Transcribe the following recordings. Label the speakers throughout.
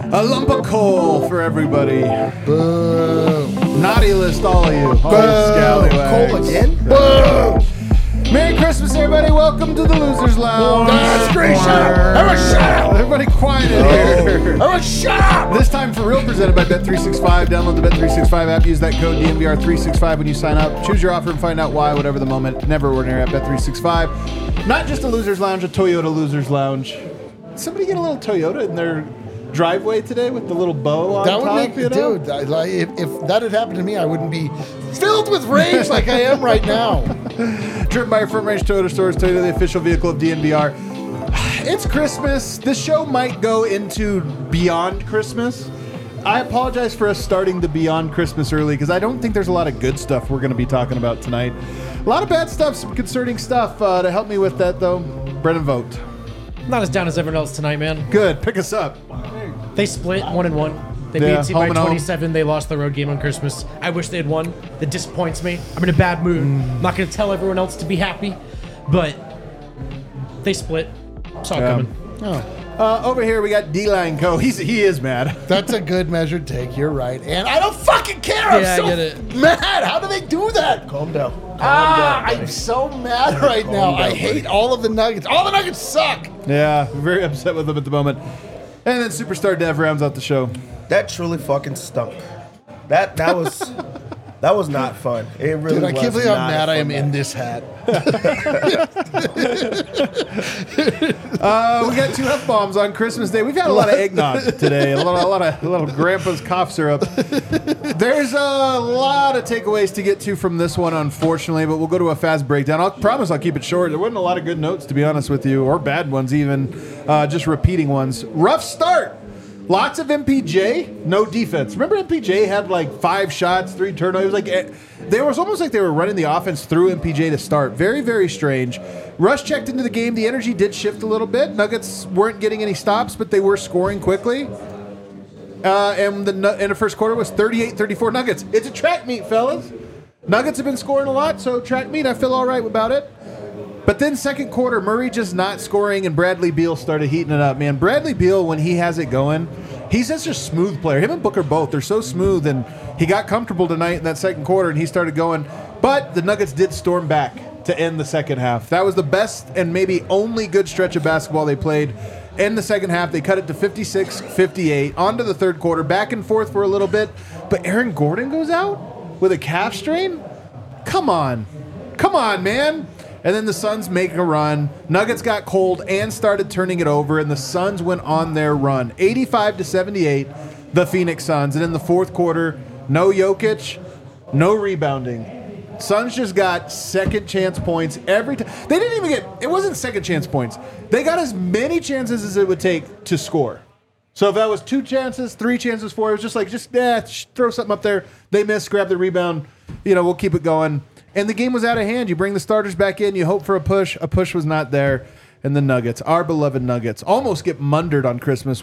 Speaker 1: A lump of coal for everybody.
Speaker 2: Boo.
Speaker 1: Naughty list, all of you. All
Speaker 2: Boo.
Speaker 1: you scallywags.
Speaker 2: Coal again? Boo.
Speaker 1: Merry Christmas, everybody. Welcome to the Losers Lounge.
Speaker 2: That's great. Shut up. Everyone shut up.
Speaker 1: Everybody quiet in here.
Speaker 2: Everyone shut up.
Speaker 1: This time for real, presented by Bet365. Download the Bet365 app. Use that code DNVR365 when you sign up. Choose your offer and find out why, whatever the moment. Never ordinary at Bet365. Not just a Losers Lounge, a Toyota Losers Lounge. Did somebody get a little Toyota in their driveway today with the little bow on
Speaker 2: That
Speaker 1: top?
Speaker 2: would make, dude, if that had happened to me, I wouldn't be filled with rage like I am right now.
Speaker 1: Driven by your Front Range Toyota stores, Toyota, the official vehicle of DNVR. It's Christmas. This show might go into beyond Christmas. I apologize for us starting the Beyond Christmas early because I don't think there's a lot of good stuff we're going to be talking about tonight. A lot of bad stuff, some concerning stuff. To help me with that, though, Brennan Vogt.
Speaker 3: Not as down as everyone else tonight, man.
Speaker 1: Good. Pick us up.
Speaker 3: They split 1-1. They
Speaker 1: Yeah,
Speaker 3: beat a team
Speaker 1: home
Speaker 3: by
Speaker 1: and home.
Speaker 3: 27. They lost the road game on Christmas. I wish they had won. That disappoints me. I'm in a bad mood. I'm not going to tell everyone else to be happy, but they split. Saw it coming.
Speaker 1: Over here, we got D-Line Co. He is mad.
Speaker 2: That's a good measured take. You're right. And I don't fucking care.
Speaker 3: Yeah,
Speaker 2: I'm so
Speaker 3: I get it.
Speaker 2: mad. How do they do that?
Speaker 4: Calm down.
Speaker 2: I'm so mad right now. I hate all of the Nuggets. All the Nuggets suck.
Speaker 1: Yeah, we're very upset with them at the moment. And then Superstar Dev rounds out the show.
Speaker 4: That truly fucking stunk. That was not fun. It really
Speaker 2: Dude, I
Speaker 4: was
Speaker 2: can't believe how
Speaker 4: not a
Speaker 2: mad I
Speaker 4: fun
Speaker 2: am
Speaker 4: night.
Speaker 2: in this hat.
Speaker 1: We got 2 F-bombs on Christmas Day. We've had a lot of eggnog today. A lot of Grandpa's cough syrup. There's a lot of takeaways to get to from this one, unfortunately, but we'll go to a fast breakdown. I promise I'll keep it short. There wasn't a lot of good notes, to be honest with you, or bad ones even, just repeating ones. Rough start. Lots of MPJ, no defense. Remember MPJ had like 5 shots, 3 turnovers. Like there was almost like they were running the offense through MPJ to start. Very, very strange. Rush checked into the game. The energy did shift a little bit. Nuggets weren't getting any stops, but they were scoring quickly. And the first quarter was 38-34 Nuggets. It's a track meet, fellas. Nuggets have been scoring a lot, so track meet, I feel all right about it. But then second quarter, Murray just not scoring, and Bradley Beal started heating it up. Man, Bradley Beal, when he has it going, he's such a smooth player. Him and Booker both, they're so smooth, and he got comfortable tonight in that second quarter, and he started going. But the Nuggets did storm back to end the second half. That was the best and maybe only good stretch of basketball they played. In the second half, they cut it to 56-58. On to the third quarter, back and forth for a little bit. But Aaron Gordon goes out with a calf strain? Come on. Come on, man. And then the Suns make a run. Nuggets got cold and started turning it over, and the Suns went on their run. 85-78, the Phoenix Suns. And in the fourth quarter, no Jokic, no rebounding. Suns just got second chance points every time. They didn't even get, it wasn't second chance points. They got as many chances as it would take to score. So if that was 2 chances, 3 chances, 4, it was just like, throw something up there. They missed, grab the rebound. We'll keep it going. And the game was out of hand. You bring the starters back in. You hope for a push. A push was not there. And the Nuggets, our beloved Nuggets, almost get mundered on Christmas,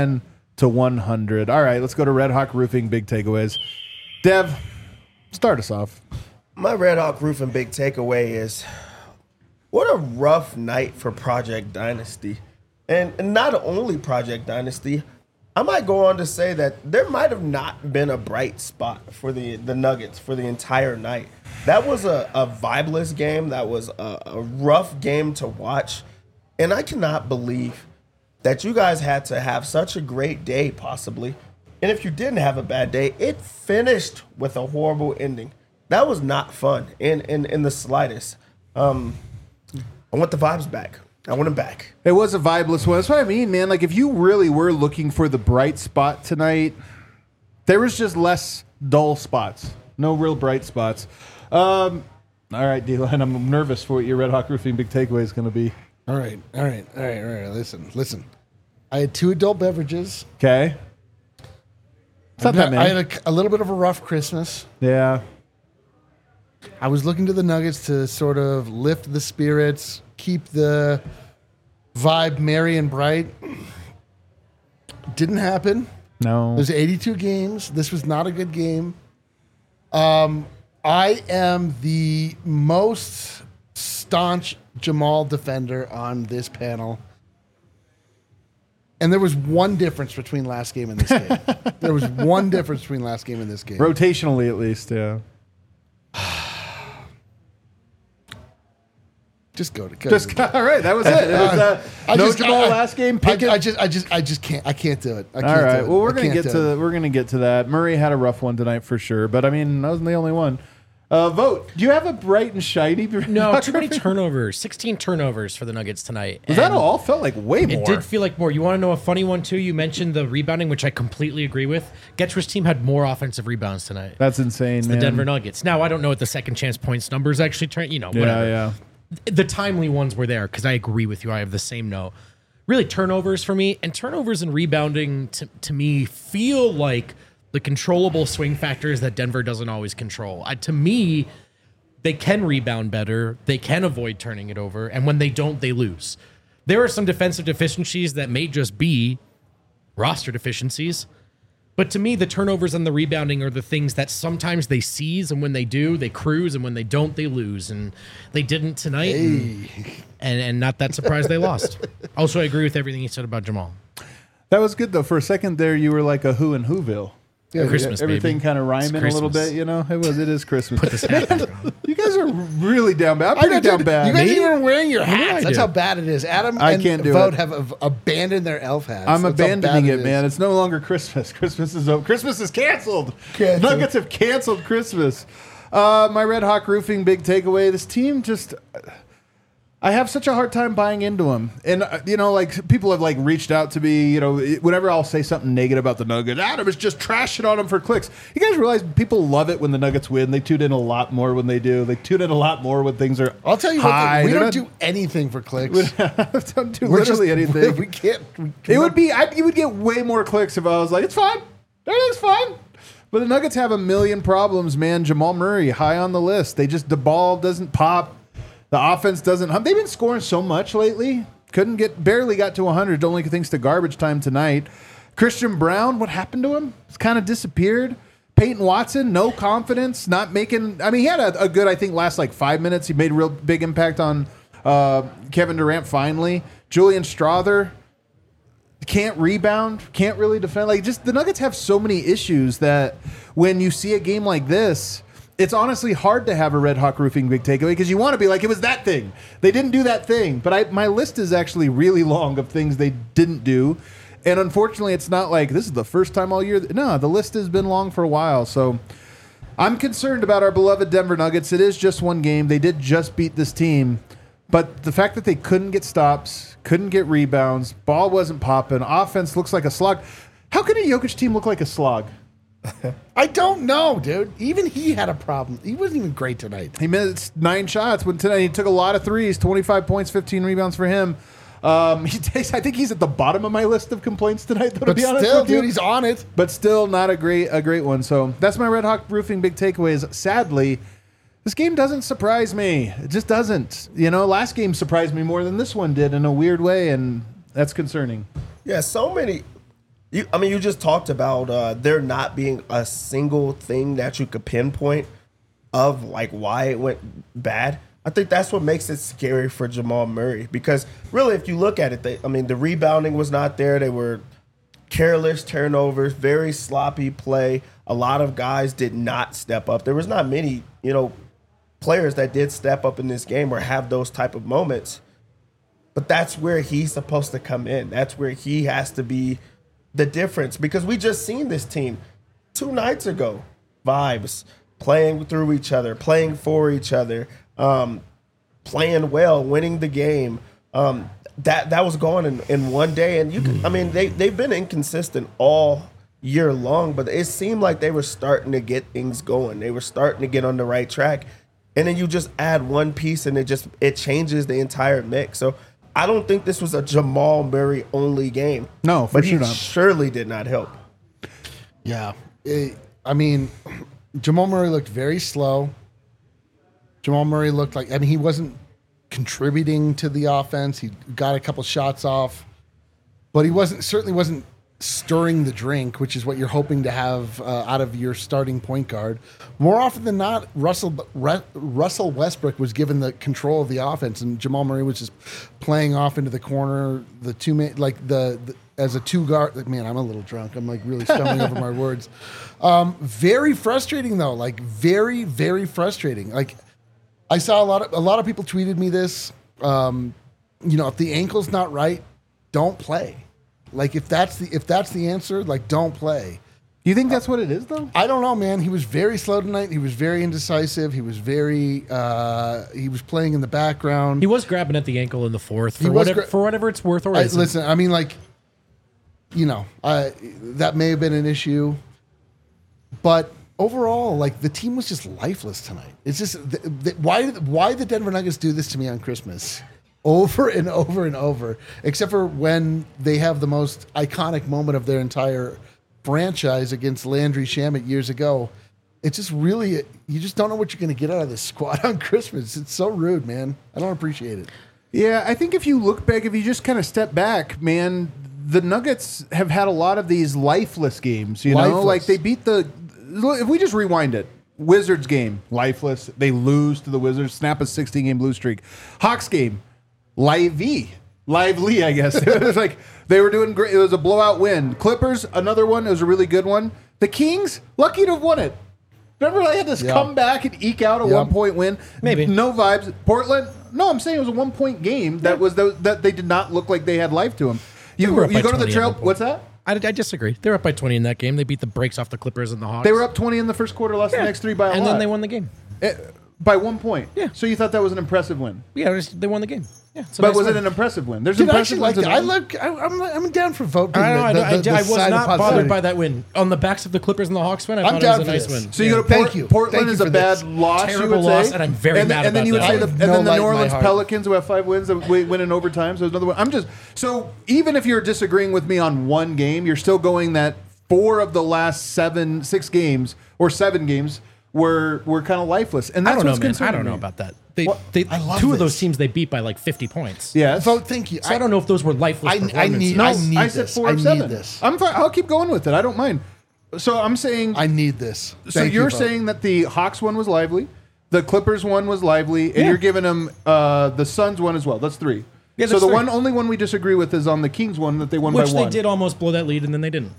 Speaker 1: 110-100. All right, let's go to Red Hawk Roofing, big takeaways. Dev, start us off.
Speaker 4: My Red Hawk Roofing big takeaway is what a rough night for Project Dynasty. And not only Project Dynasty, I might go on to say that there might have not been a bright spot for the Nuggets for the entire night. That was a vibeless game. That was a rough game to watch. And I cannot believe that you guys had to have such a great day, possibly. And if you didn't have a bad day, it finished with a horrible ending. That was not fun in the slightest. I want the vibes back. I want them back.
Speaker 1: It was a vibeless one. That's what I mean, man. Like, if you really were looking for the bright spot tonight, there was just less dull spots. No real bright spots. All right, D-Line, I'm nervous for what your Red Hawk Roofing big takeaway is going to be.
Speaker 2: All right. Listen. I had 2 adult beverages.
Speaker 1: Okay. It's not that
Speaker 2: I
Speaker 1: many.
Speaker 2: had a little bit of a rough Christmas.
Speaker 1: Yeah.
Speaker 2: I was looking to the Nuggets to sort of lift the spirits, keep the vibe merry and bright. Didn't happen.
Speaker 1: No.
Speaker 2: There's 82 games. This was not a good game. I am the most staunch Jamal defender on this panel. And there was one difference between last game and this game. There was one difference between last game and this game.
Speaker 1: Rotationally, at least, yeah.
Speaker 2: Just go to
Speaker 1: All right, that was it. It was Jamal last game. Pickett.
Speaker 2: I just can't. I can't do it. I
Speaker 1: All
Speaker 2: can't
Speaker 1: right.
Speaker 2: do it.
Speaker 1: Well, we're
Speaker 2: I
Speaker 1: gonna
Speaker 2: can't
Speaker 1: get
Speaker 2: do
Speaker 1: to
Speaker 2: it.
Speaker 1: we're gonna get to that. Murray had a rough one tonight for sure, but I mean, that wasn't the only one. Vote. Do you have a bright and shiny?
Speaker 3: No, too many turnovers. 16 turnovers for the Nuggets tonight.
Speaker 1: Was that all? Felt like way more.
Speaker 3: It did feel like more. You want to know a funny one too? You mentioned the rebounding, which I completely agree with. Getch's team had more offensive rebounds tonight.
Speaker 1: That's insane, man.
Speaker 3: The Denver Nuggets. Now I don't know what the second chance points numbers actually turn. Whatever.
Speaker 1: Yeah.
Speaker 3: The timely ones were there because I agree with you. I have the same note. Really, turnovers for me, and turnovers and rebounding to me feel like the controllable swing factors that Denver doesn't always control. To me, they can rebound better. They can avoid turning it over, and when they don't, they lose. There are some defensive deficiencies that may just be roster deficiencies. But to me, the turnovers and the rebounding are the things that sometimes they seize, and when they do, they cruise, and when they don't, they lose. And they didn't tonight, and not that surprised they lost. Also, I agree with everything you said about Jamal.
Speaker 1: That was good though. For a second there, you were like a Who in Whoville.
Speaker 2: Yeah,
Speaker 3: Christmas,
Speaker 1: Everything
Speaker 3: baby.
Speaker 1: kind of rhyming a little
Speaker 3: Christmas.
Speaker 1: bit, you know. It is Christmas.
Speaker 3: Put this hat back on.
Speaker 1: You guys are really down bad. I'm pretty down bad.
Speaker 2: You guys
Speaker 3: Me?
Speaker 2: even are wearing your
Speaker 3: What did I
Speaker 2: hats. That's
Speaker 3: do?
Speaker 2: how bad it is. Adam
Speaker 1: I
Speaker 2: and
Speaker 1: can't do
Speaker 2: Vote
Speaker 1: it.
Speaker 2: have abandoned their elf hats.
Speaker 1: I'm
Speaker 2: That's how bad
Speaker 1: abandoning it,
Speaker 2: is.
Speaker 1: man. It's no longer Christmas. Christmas is over. Christmas is canceled.
Speaker 2: Canceled.
Speaker 1: Nuggets have canceled Christmas. My Red Hawk Roofing big takeaway. This team just. I have such a hard time buying into them. And, like, people have, like, reached out to me, whenever I'll say something negative about the Nuggets, Adam is just trashing on them for clicks. You guys realize people love it when the Nuggets win. They tune in a lot more when they do. They tune in a lot more when things are
Speaker 2: I'll tell you
Speaker 1: high.
Speaker 2: what, we
Speaker 1: They're
Speaker 2: don't
Speaker 1: not-
Speaker 2: do anything for clicks.
Speaker 1: don't do
Speaker 2: We're
Speaker 1: literally
Speaker 2: just-
Speaker 1: anything.
Speaker 2: We can't.
Speaker 1: You would get way more clicks if I was like, it's fine. Everything's fine. But the Nuggets have a million problems, man. Jamal Murray, high on the list. The ball doesn't pop. The offense doesn't. They've been scoring so much lately. Barely got to 100. Only thanks to garbage time tonight. Christian Brown, what happened to him? It's kind of disappeared. Peyton Watson, no confidence, not making. I mean, he had a good, I think, last like 5 minutes. He made a real big impact on Kevin Durant finally. Julian Strawther can't rebound, can't really defend. Like, just the Nuggets have so many issues that when you see a game like this, it's honestly hard to have a Red Hawk Roofing big takeaway because you want to be like, it was that thing. They didn't do that thing. But my list is actually really long of things they didn't do. And unfortunately, it's not like this is the first time all year. No, the list has been long for a while. So I'm concerned about our beloved Denver Nuggets. It is just one game. They did just beat this team. But the fact that they couldn't get stops, couldn't get rebounds, ball wasn't popping, offense looks like a slog. How can a Jokic team look like a slog?
Speaker 2: I don't know, dude. Even he had a problem. He wasn't even great tonight.
Speaker 1: He missed 9 shots when tonight he took a lot of threes, 25 points, 15 rebounds for him. I think he's at the bottom of my list of complaints tonight, though, to
Speaker 2: But
Speaker 1: be honest
Speaker 2: still,
Speaker 1: with you.
Speaker 2: dude, he's on it.
Speaker 1: But still not a great one. So that's my Red Hawk Roofing big takeaways. Sadly, this game doesn't surprise me. It just doesn't. Last game surprised me more than this one did in a weird way, and that's concerning.
Speaker 4: Yeah, so many. You just talked about there not being a single thing that you could pinpoint of like why it went bad. I think that's what makes it scary for Jamal Murray because really, if you look at it, the rebounding was not there. They were careless turnovers, very sloppy play. A lot of guys did not step up. There was not many, players that did step up in this game or have those type of moments. But that's where he's supposed to come in. That's where he has to be the difference because we just seen this team 2 nights ago. Vibes, playing through each other, playing for each other, playing well, winning the game. That was gone in one day. And they've been inconsistent all year long, but it seemed like they were starting to get things going. They were starting to get on the right track. And then you just add one piece and it changes the entire mix. So I don't think this was a Jamal Murray only game.
Speaker 1: No, for
Speaker 4: but
Speaker 1: sure
Speaker 4: he
Speaker 1: not.
Speaker 4: surely did not help.
Speaker 2: Yeah. Jamal Murray looked very slow. Jamal Murray looked like, he wasn't contributing to the offense. He got a couple shots off, but he certainly wasn't stirring the drink, which is what you're hoping to have out of your starting point guard. More often than not, Russell Westbrook was given the control of the offense, and Jamal Murray was just playing off into the corner. The two-man, as a two guard. Man, I'm a little drunk. I'm like really stumbling over my words. Very frustrating though. Like very, very frustrating. Like I saw a lot of people tweeted me this. If the ankle's not right, don't play. Like if that's the answer, like don't play.
Speaker 1: You think that's what it is, though?
Speaker 2: I don't know, man. He was very slow tonight. He was very indecisive. He was he was playing in the background.
Speaker 3: He was grabbing at the ankle in the fourth for whatever it's worth. Or
Speaker 2: listen, I mean, like, that may have been an issue, but overall, like the team was just lifeless tonight. It's just why the Denver Nuggets do this to me on Christmas over and over and over, except for when they have the most iconic moment of their entire franchise against Landry Shamet years ago. It's just really, you just don't know what you're going to get out of this squad on Christmas. It's so rude, man. I don't appreciate it.
Speaker 1: Yeah, I think if you look back, if you just kind of step back, man, the Nuggets have had a lot of these lifeless games, you know? Like they beat if we just rewind it, Wizards game, lifeless. They lose to the Wizards, snap a 16-game lose streak. Hawks game, lively, I guess. It was like they were doing great. It was a blowout win. Clippers, another one. It was a really good one. The Kings, lucky to have won it. Remember they had to come back and eke out a 1-point win?
Speaker 3: Maybe.
Speaker 1: No vibes. Portland, no, I'm saying it was a 1-point game that they did not look like they had life to them. You go to the trail. What's that?
Speaker 3: I disagree. They were up by 20 in that game. They beat the brakes off the Clippers and the Hawks.
Speaker 1: They were up 20 in the first quarter, lost the next 3 by a lot.
Speaker 3: And then they won the game.
Speaker 1: By 1 point.
Speaker 3: Yeah.
Speaker 1: So you thought that was an impressive win?
Speaker 3: Yeah, they won the game. Yeah,
Speaker 1: but was it an impressive win? There's
Speaker 2: Dude,
Speaker 1: impressive
Speaker 2: I actually
Speaker 1: wins.
Speaker 2: like that. I'm down for voting.
Speaker 3: I was not bothered by that win. On the backs of the Clippers and the Hawks win, I thought it was a nice win.
Speaker 1: So you go to Portland is a bad loss.
Speaker 3: Terrible loss, and I'm very mad about that.
Speaker 1: And then you would say, and then the New Orleans Pelicans who have 5 wins that win in overtime. So another one. So even if you're disagreeing with me on one game, you're still going that 4 of the last 6 games or 7 games were kind of lifeless. And that's
Speaker 3: I don't know,
Speaker 1: what's
Speaker 3: man.
Speaker 1: concerning
Speaker 3: I don't know
Speaker 1: me.
Speaker 3: about that.
Speaker 2: I love
Speaker 3: 2 of those
Speaker 2: this.
Speaker 3: teams they beat by like 50 points.
Speaker 1: Yes.
Speaker 2: Vote. Thank you.
Speaker 3: So I don't know if those were lifeless performances.
Speaker 1: I said 4 of 7. I'm fine. I'll keep going with it. I don't mind. So I'm saying
Speaker 2: I need this.
Speaker 1: So you're saying that the Hawks one was lively, the Clippers one was lively, and you're giving them the Suns one as well. That's 3.
Speaker 3: Yeah,
Speaker 1: so
Speaker 3: that's
Speaker 1: the
Speaker 3: 3.
Speaker 1: only one we disagree with is on the Kings one that they won by 1.
Speaker 3: Which they did almost blow that lead, and then they didn't.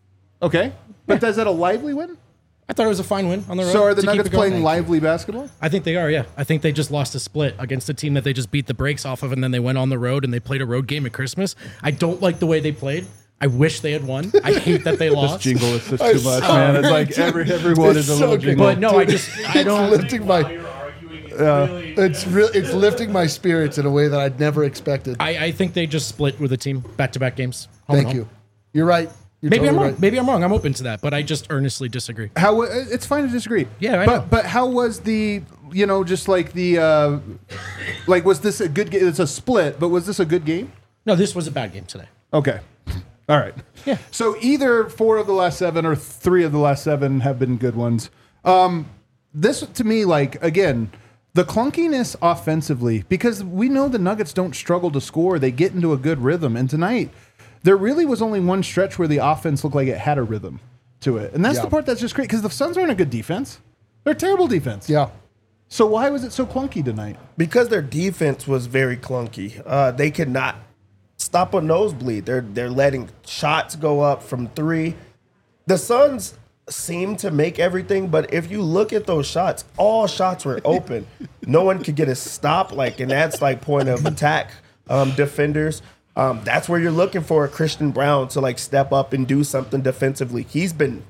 Speaker 1: Okay. But is that a lively win?
Speaker 3: I thought it was a fine win on the road.
Speaker 1: So are the
Speaker 3: to keep
Speaker 1: Nuggets
Speaker 3: it going.
Speaker 1: playing lively basketball?
Speaker 3: I think they are, yeah. I think they just lost a split against a team that they just beat the brakes off of, and then they went on the road and they played a road game at Christmas. I don't like the way they played. I wish they had won. I hate that they lost.
Speaker 1: This jingle is just too much, man. It's like everyone is a little jingle.
Speaker 3: But no, I don't.
Speaker 2: Lifting it's lifting my spirits in a way that I'd never expected.
Speaker 3: I think they just split with a team back-to-back games.
Speaker 2: Thank you. You're right.
Speaker 3: Maybe I'm wrong. Right. Maybe I'm wrong. I'm open to that, but I just earnestly disagree.
Speaker 1: It's fine to disagree.
Speaker 3: Yeah, I know.
Speaker 1: But how was the just like the was this a good game? It's a split, but was this a good game?
Speaker 3: No, this was a bad game today.
Speaker 1: Okay. All right.
Speaker 3: Yeah.
Speaker 1: So either 4 of the last 7 or 3 of the last 7 have been good ones. This to me, like again, the clunkiness offensively, because we know the Nuggets don't struggle to score; they get into a good rhythm, and tonight. There really was only one stretch where the offense looked like it had a rhythm to it. And that's the part that's just great because the Suns aren't a good defense. They're a terrible defense.
Speaker 2: Yeah.
Speaker 1: So why was it so clunky tonight?
Speaker 4: Because their defense was very clunky. They could not stop a nosebleed. They're letting shots go up from 3. The Suns seem to make everything, but if you look at those shots, all shots were open. No one could get a stop, and that's point of attack defenders. That's where you're looking for Christian Brown to step up and do something defensively. He's been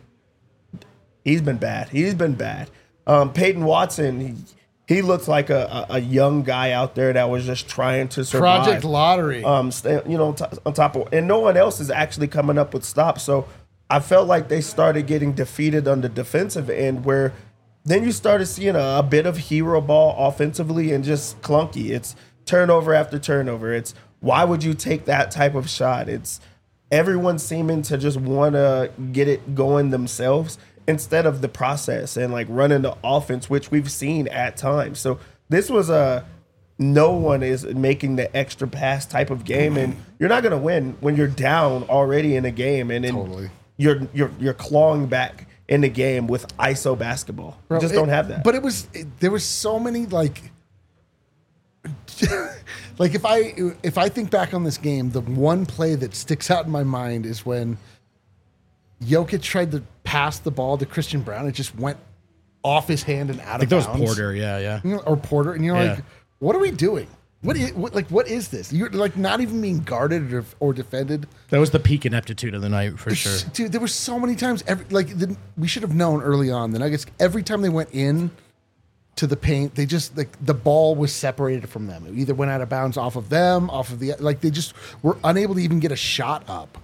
Speaker 4: bad. He's been bad. Peyton Watson, he looks like a young guy out there that was just trying to survive.
Speaker 2: Project Lottery.
Speaker 4: On top of, and no one else is actually coming up with stops. So I felt like they started getting defeated on the defensive end, where then you started seeing a bit of hero ball offensively and just clunky. It's turnover after turnover. It's why would you take that type of shot? It's everyone seeming to just want to get it going themselves instead of the process and running the offense, which we've seen at times. So this was no one is making the extra pass type of game, and you're not going to win when you're down already in a game, and then you're clawing back in the game with ISO basketball. You just don't have that.
Speaker 2: But there was so many like if I think back on this game, the one play that sticks out in my mind is when Jokic tried to pass the ball to Christian Brown. It just went off his hand and out of bounds.
Speaker 3: That was Porter, yeah.
Speaker 2: You know, or Porter, and you're
Speaker 3: Yeah.
Speaker 2: like, what are we doing? What is this? You're like not even being guarded or defended.
Speaker 3: That was the peak ineptitude of the night for sure.
Speaker 2: Dude, there were so many times. We should have known early on. The Nuggets, every time they went in to the paint, they just the ball was separated from them. It either went out of bounds off of them, off of the they just were unable to even get a shot up.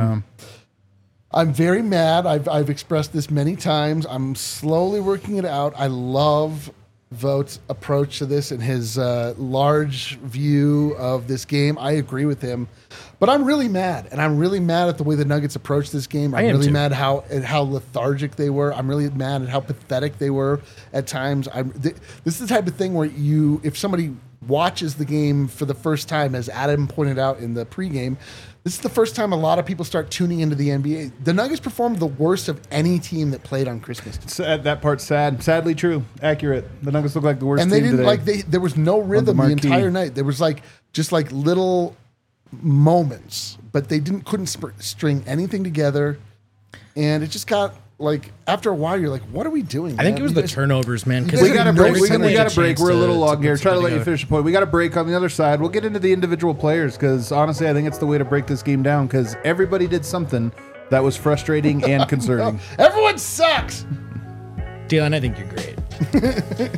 Speaker 2: I'm very mad. I've expressed this many times. I'm slowly working it out. I love Vogt's approach to this and his large view of this game. I agree with him, but I'm really mad, and I'm really mad at the way the Nuggets approached this game. I'm really mad at how lethargic they were. I'm really mad at how pathetic they were at times. This is the type of thing where if somebody watches the game for the first time, as Adam pointed out in the pregame, this is the first time a lot of people start tuning into the NBA. The Nuggets performed the worst of any team that played on Christmas Day.
Speaker 1: That part's sad. Sadly true. Accurate. The Nuggets look like the worst
Speaker 2: and
Speaker 1: team
Speaker 2: they didn't
Speaker 1: today.
Speaker 2: there was no rhythm the entire night. There was just little moments, but they couldn't string anything together, and it just got after a while you're like, what are we doing?
Speaker 3: I think it was the turnovers, man.
Speaker 2: guys
Speaker 1: We got a
Speaker 2: have
Speaker 1: break.
Speaker 2: no
Speaker 1: We
Speaker 2: sense
Speaker 1: got a break. We're a little long here. Try to let you
Speaker 3: finish.
Speaker 1: finish the point. We got a break on the other side. We'll get into the individual players because honestly, I think it's the way to break this game down because everybody did something that was frustrating and concerning.
Speaker 2: Everyone sucks.
Speaker 3: Dylan, I think you're great.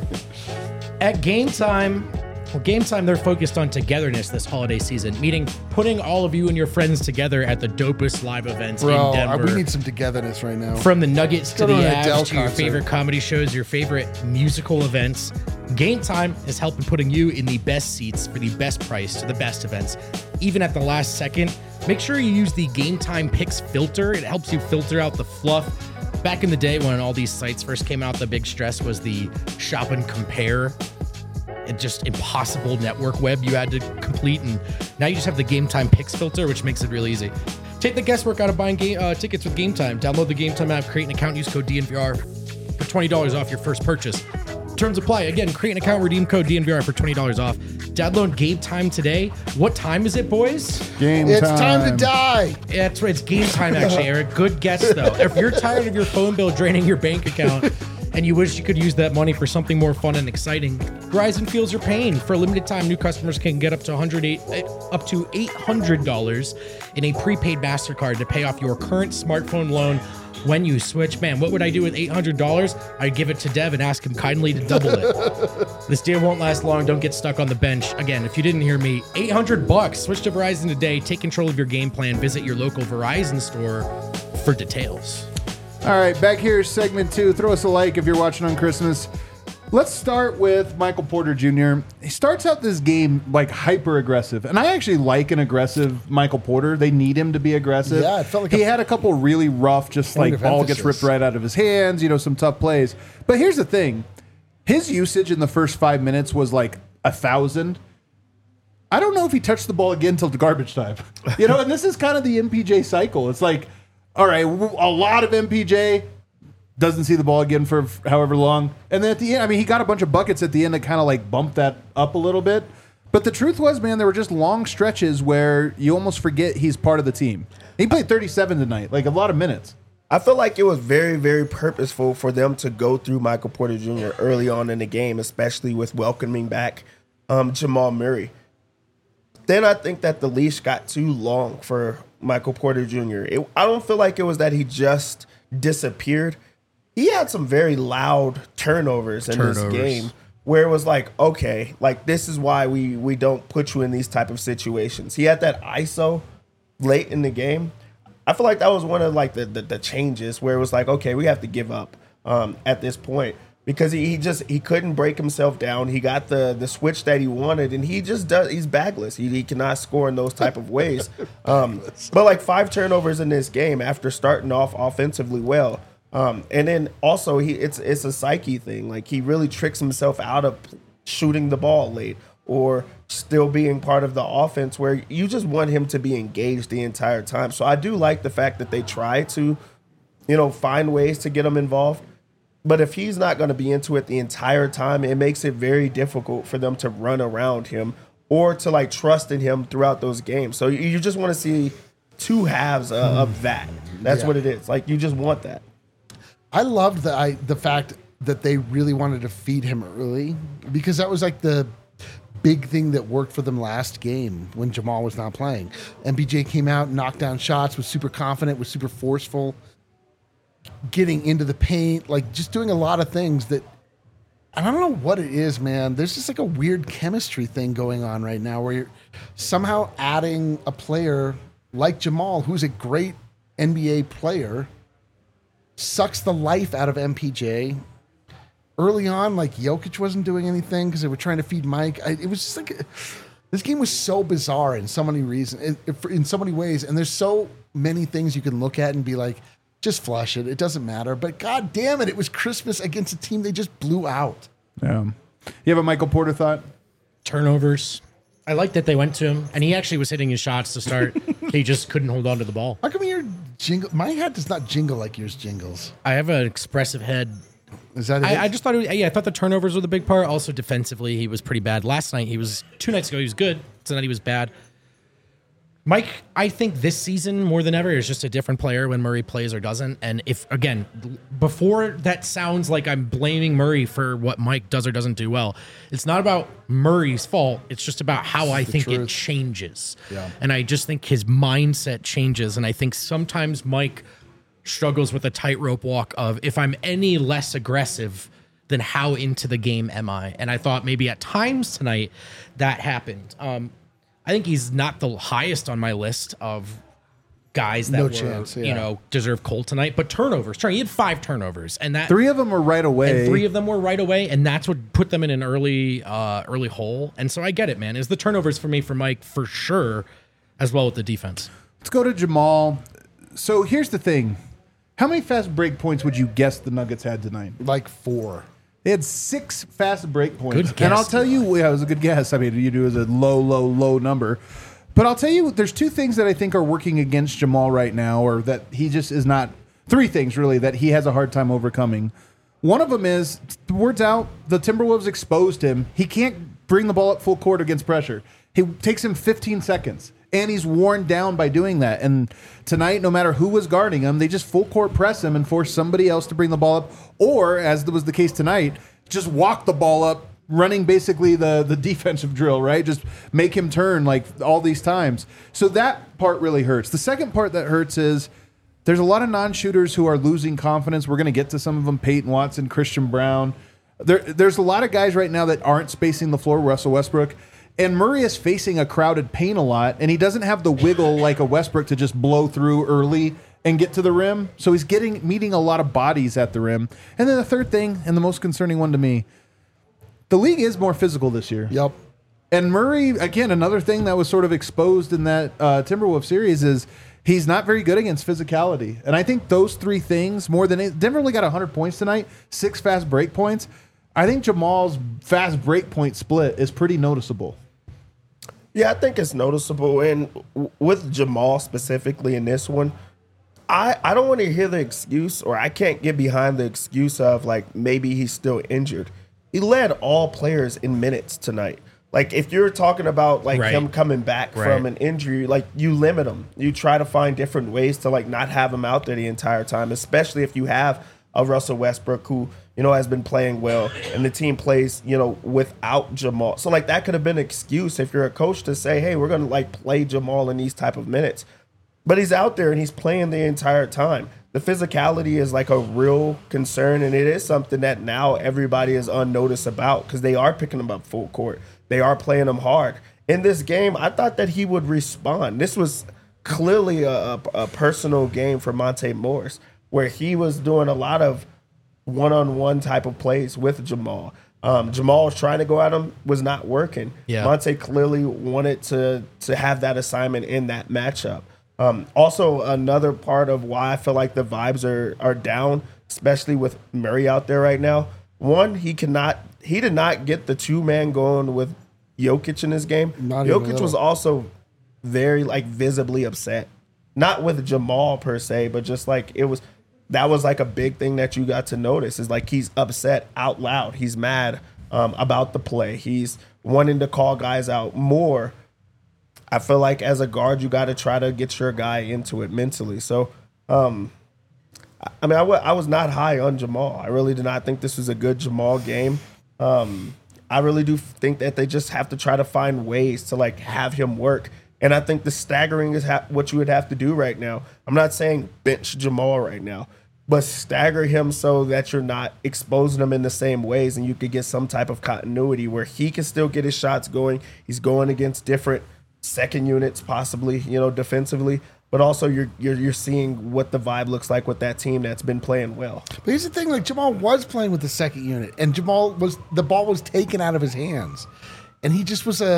Speaker 3: At Game Time, they're focused on togetherness this holiday season, meaning putting all of you and your friends together at the dopest live events in Denver.
Speaker 2: We need some togetherness right now.
Speaker 3: From the Nuggets to
Speaker 2: go
Speaker 3: the
Speaker 2: to an Adele
Speaker 3: Avs to your
Speaker 2: concert.
Speaker 3: favorite comedy shows, your favorite musical events, Game Time is helping putting you in the best seats for the best price to the best events, even at the last second. Make sure you use the Game Time Picks filter. It helps you filter out the fluff. Back in the day when all these sites first came out, the big stress was the shop and compare and just impossible network web you had to complete. And now you just have the Game Time Picks filter, which makes it really easy. Take the guesswork out of buying tickets with Game Time. Download the Game Time app, create an account, use code DNVR for $20 off your first purchase. Terms apply. Again, create an account, redeem code DNVR for $20 off. Download Game Time today. What time is it, boys?
Speaker 2: It's time to die.
Speaker 3: That's right. It's Game Time, actually, Eric. Good guess, though. If you're tired of your phone bill draining your bank account and you wish you could use that money for something more fun and exciting, Verizon feels your pain. For a limited time, new customers can get up to $800 in a prepaid MasterCard to pay off your current smartphone loan when you switch. Man, what would I do with $800? I'd give it to Dev and ask him kindly to double it. This deal won't last long. Don't get stuck on the bench. Again, if you didn't hear me, $800. Switch to Verizon today. Take control of your game plan. Visit your local Verizon store for details.
Speaker 1: All right, back here, segment 2. Throw us a like if you're watching on Christmas. Let's start with Michael Porter Jr. He starts out this game hyper aggressive, and I actually like an aggressive Michael Porter. They need him to be aggressive.
Speaker 2: Yeah, it felt like
Speaker 1: he had a couple really rough, just
Speaker 2: point of
Speaker 1: ball gets
Speaker 2: emphasis.
Speaker 1: ripped right out of his hands. Some tough plays. But here's the thing: his usage in the first 5 minutes was 1,000. I don't know if he touched the ball again till the garbage time. And this is kind of the MPJ cycle. It's all right, a lot of MPJ. Doesn't see the ball again for however long. And then at the end, he got a bunch of buckets at the end that kind of bumped that up a little bit. But the truth was, man, there were just long stretches where you almost forget he's part of the team. He played 37 tonight, a lot of minutes.
Speaker 4: I feel like it was very, very purposeful for them to go through Michael Porter Jr. early on in the game, especially with welcoming back Jamal Murray. Then I think that the leash got too long for Michael Porter Jr. I don't feel like it was that he just disappeared. He had some very loud turnovers in this game where it was okay, this is why we don't put you in these type of situations. He had that ISO late in the game. I feel like that was one of the changes where it was okay, we have to give up at this point because he couldn't break himself down. He got the switch that he wanted, and he's bagless. He cannot score in those type of ways. But 5 turnovers in this game after starting off offensively well. And then also it's a psyche thing. He really tricks himself out of shooting the ball late or still being part of the offense where you just want him to be engaged the entire time. So I do like the fact that they try to, find ways to get him involved. But if he's not going to be into it the entire time, it makes it very difficult for them to run around him or to like trust in him throughout those games. So you just want to see two halves of that. That's what it is. Like, you just want that.
Speaker 2: I loved the fact that they really wanted to feed him early, because that was like the big thing that worked for them last game when Jamal was not playing. MPJ came out, knocked down shots, was super confident, was super forceful, getting into the paint, like just doing a lot of things that, I don't know what it is, man. There's just like a weird chemistry thing going on right now where you're somehow adding a player like Jamal, who's a great NBA player, sucks the life out of MPJ. Early on, like Jokic wasn't doing anything because they were trying to feed Mike. It was just like, this game was so bizarre in so many reasons, in so many ways. And there's so many things you can look at and be like, just flush it. It doesn't matter. But God damn it, it was Christmas against a team they just blew out.
Speaker 1: Yeah. You have a Michael Porter thought?
Speaker 3: Turnovers. I like that they went to him, and he actually was hitting his shots to start. He just couldn't hold on to the ball.
Speaker 2: How come your jingle? My head does not jingle like yours jingles.
Speaker 3: I have an expressive head.
Speaker 2: Is that it?
Speaker 3: I just thought I thought the turnovers were the big part. Also, defensively, he was pretty bad. Last night, 2 nights ago, he was good. Tonight, he was bad. Mike, I think this season, more than ever, is just a different player when Murray plays or doesn't. And if, again, before that sounds like I'm blaming Murray for what Mike does or doesn't do well, it's not about Murray's fault. It's just about how I think it changes.
Speaker 2: Yeah.
Speaker 3: And I just think his mindset changes. And I think sometimes Mike struggles with a tightrope walk of, if I'm any less aggressive, then how into the game am I? And I thought maybe at times tonight that happened. I think he's not the highest on my list of guys that deserve cold tonight. But turnovers. He had 5 turnovers, and that
Speaker 1: 3 of them were right away.
Speaker 3: And 3 of them were right away, and that's what put them in an early hole. And so I get it, man. It's the turnovers for me, for Mike, for sure, as well with the defense.
Speaker 1: Let's go to Jamal. So here's the thing. How many fast break points would you guess the Nuggets had tonight?
Speaker 2: Like 4.
Speaker 1: They had 6 fast break points.
Speaker 3: Good guess,
Speaker 1: and I'll tell you, it was a good guess. I mean, you do as a low number. But I'll tell you, there's 2 things that I think are working against Jamal right now, or that he just is not, 3 things really that he has a hard time overcoming. One of them is, the word's out, the Timberwolves exposed him. He can't bring the ball up full court against pressure. It takes him 15 seconds. And he's worn down by doing that. And tonight, no matter who was guarding him, they just full court press him and force somebody else to bring the ball up. Or, as was the case tonight, just walk the ball up, running basically the defensive drill, right? Just make him turn like all these times. So that part really hurts. The second part that hurts is there's a lot of non-shooters who are losing confidence. We're going to get to some of them, Peyton Watson, Christian Brown. There's a lot of guys right now that aren't spacing the floor, Russell Westbrook. And Murray is facing a crowded paint a lot, and he doesn't have the wiggle like a Westbrook to just blow through early and get to the rim. So he's meeting a lot of bodies at the rim. And then the third thing, and the most concerning one to me, the league is more physical this year.
Speaker 2: Yep.
Speaker 1: And Murray, again, another thing that was sort of exposed in that Timberwolves series is he's not very good against physicality. And I think those 3 things, more than Denver only got 100 points tonight, 6 fast break points. I think Jamal's fast break point split is pretty noticeable.
Speaker 4: Yeah, I think it's noticeable. And with Jamal specifically in this one, I don't want to hear the excuse, or I can't get behind the excuse of like maybe he's still injured. He led all players in minutes tonight. Like, if you're talking about like him coming back from an injury, like, you limit him. You try to find different ways to like not have him out there the entire time, especially if you have a Russell Westbrook who, has been playing well, and the team plays, without Jamal. So like that could have been an excuse if you're a coach to say, hey, we're going to like play Jamal in these type of minutes. But he's out there and he's playing the entire time. The physicality is like a real concern, and it is something that now everybody is unnoticed about because they are picking him up full court. They are playing him hard. In this game, I thought that he would respond. This was clearly a personal game for Monte Morris, where he was doing a lot of one-on-one type of plays with Jamal. Jamal was trying to go at him, was not working.
Speaker 3: Yeah.
Speaker 4: Monte clearly wanted to have that assignment in that matchup. Also, another part of why I feel like the vibes are down, especially with Murray out there right now. One, he did not get the 2-man going with Jokic in this game. Jokic was also very like visibly upset. Not with Jamal per se, but just like that was like a big thing that you got to notice is like he's upset out loud. He's mad about the play. He's wanting to call guys out more. I feel like as a guard, you got to try to get your guy into it mentally. So, I mean, I was not high on Jamal. I really did not think this was a good Jamal game. I really do think that they just have to try to find ways to like have him work. And I think the staggering is what you would have to do right now. I'm not saying bench Jamal right now, but stagger him so that you're not exposing him in the same ways and you could get some type of continuity where he can still get his shots going. He's going against different second units possibly, defensively, but also you're seeing what the vibe looks like with that team that's been playing well.
Speaker 2: But here's the thing, like Jamal was playing with the second unit and the ball was taken out of his hands and he just was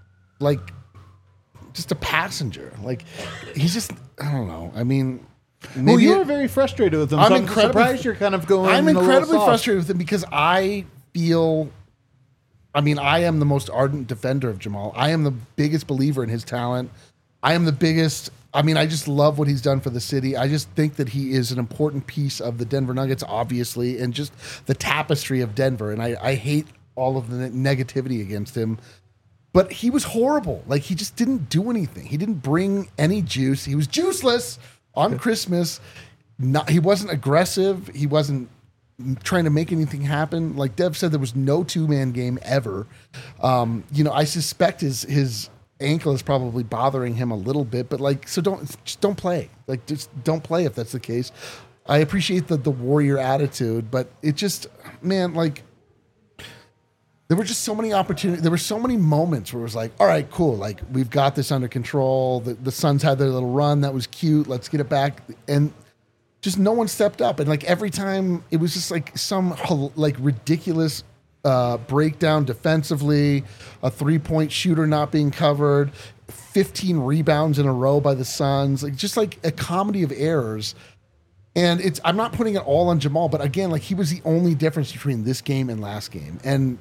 Speaker 2: just a passenger. Like he's just, I don't know. I mean,
Speaker 1: well, you were very frustrated with him. I'm surprised you're kind of going.
Speaker 2: I'm incredibly frustrated with him because I feel, I mean, I am the most ardent defender of Jamal. I am the biggest believer in his talent. I just love what he's done for the city. I just think that he is an important piece of the Denver Nuggets, obviously, and just the tapestry of Denver. And I hate all of the negativity against him. But he was horrible. Like, he just didn't do anything. He didn't bring any juice. He was juiceless on Christmas. He wasn't aggressive. He wasn't trying to make anything happen. Like Dev said, there was no two-man game ever. I suspect his ankle is probably bothering him a little bit. But, so don't play. Like, just don't play if that's the case. I appreciate the warrior attitude, but it just, man, like, there were just so many opportunities. There were so many moments where it was like, all right, cool. Like, we've got this under control. The Suns had their little run. That was cute. Let's get it back. And just no one stepped up. And, like, every time it was just, like, some, like, ridiculous breakdown defensively, a three-point shooter not being covered, 15 rebounds in a row by the Suns. Like, just, like, a comedy of errors. And I'm not putting it all on Jamal, but, again, like, he was the only difference between this game and last game. And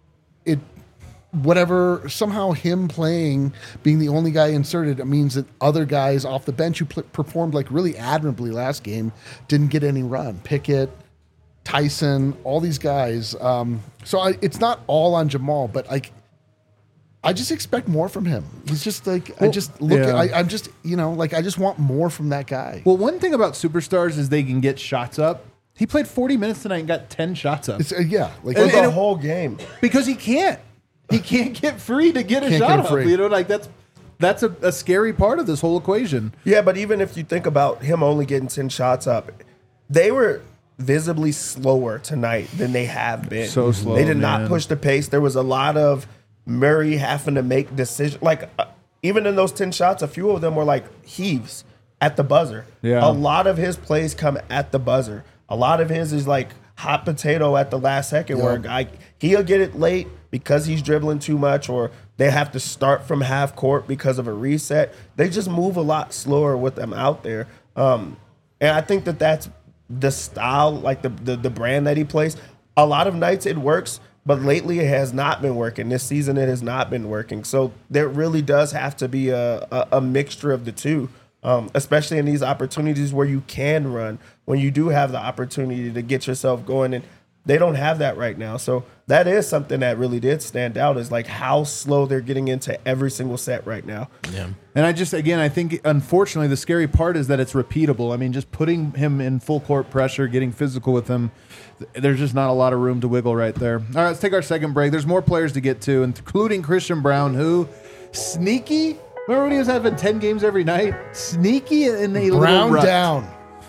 Speaker 2: somehow him playing, being the only guy inserted, it means that other guys off the bench who performed like really admirably last game didn't get any run. Pickett, Tyson, all these guys. It's not all on Jamal, but like, I just expect more from him. He's just like, I just want more from that guy.
Speaker 1: Well, one thing about superstars is they can get shots up. He played 40 minutes tonight and got 10 shots up.
Speaker 4: The whole game.
Speaker 1: Because he can't. He can't get free to get a shot up. That's a scary part of this whole equation.
Speaker 4: Yeah, but even if you think about him only getting 10 shots up, they were visibly slower tonight than they have been.
Speaker 1: So slow.
Speaker 4: They did not push the pace. There was a lot of Murray having to make decisions. Like, even in those 10 shots, a few of them were like heaves at the buzzer.
Speaker 1: Yeah.
Speaker 4: A lot of his plays come at the buzzer. A lot of his is like hot potato at the last second where a guy, he'll get it late because he's dribbling too much, or they have to start from half court because of a reset. They just move a lot slower with them out there. And I think that's the style, like the brand that he plays. A lot of nights it works, but lately it has not been working. This season it has not been working. So there really does have to be a mixture of the two. Especially in these opportunities where you can run, when you do have the opportunity to get yourself going, and they don't have that right now. So that is something that really did stand out, is like how slow they're getting into every single set right now.
Speaker 1: Yeah. And I think, unfortunately, the scary part is that it's repeatable. I mean, just putting him in full court pressure, getting physical with him, there's just not a lot of room to wiggle right there. All right, let's take our second break. There's more players to get to, including Christian Braun, who sneaky. Remember when he was having 10 games every night? Sneaky in a little rut.
Speaker 2: Down.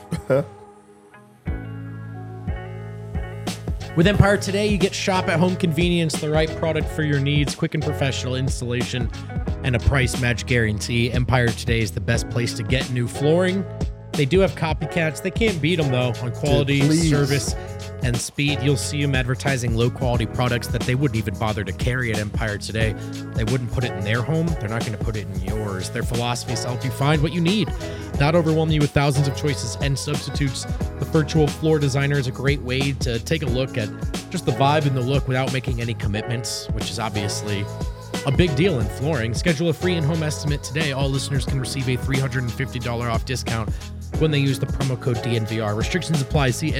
Speaker 3: With Empire Today, you get shop-at-home convenience, the right product for your needs, quick and professional installation, and a price match guarantee. Empire Today is the best place to get new flooring. They do have copycats. They can't beat them, though, on quality, service, and speed. You'll see them advertising low-quality products that they wouldn't even bother to carry at Empire Today. They wouldn't put it in their home. They're not going to put it in yours. Their philosophy is to help you find what you need, not overwhelm you with thousands of choices and substitutes. The virtual floor designer is a great way to take a look at just the vibe and the look without making any commitments, which is obviously a big deal in flooring. Schedule a free in-home estimate today. All listeners can receive a $350 off discount when they use the promo code DNVR. Restrictions apply. See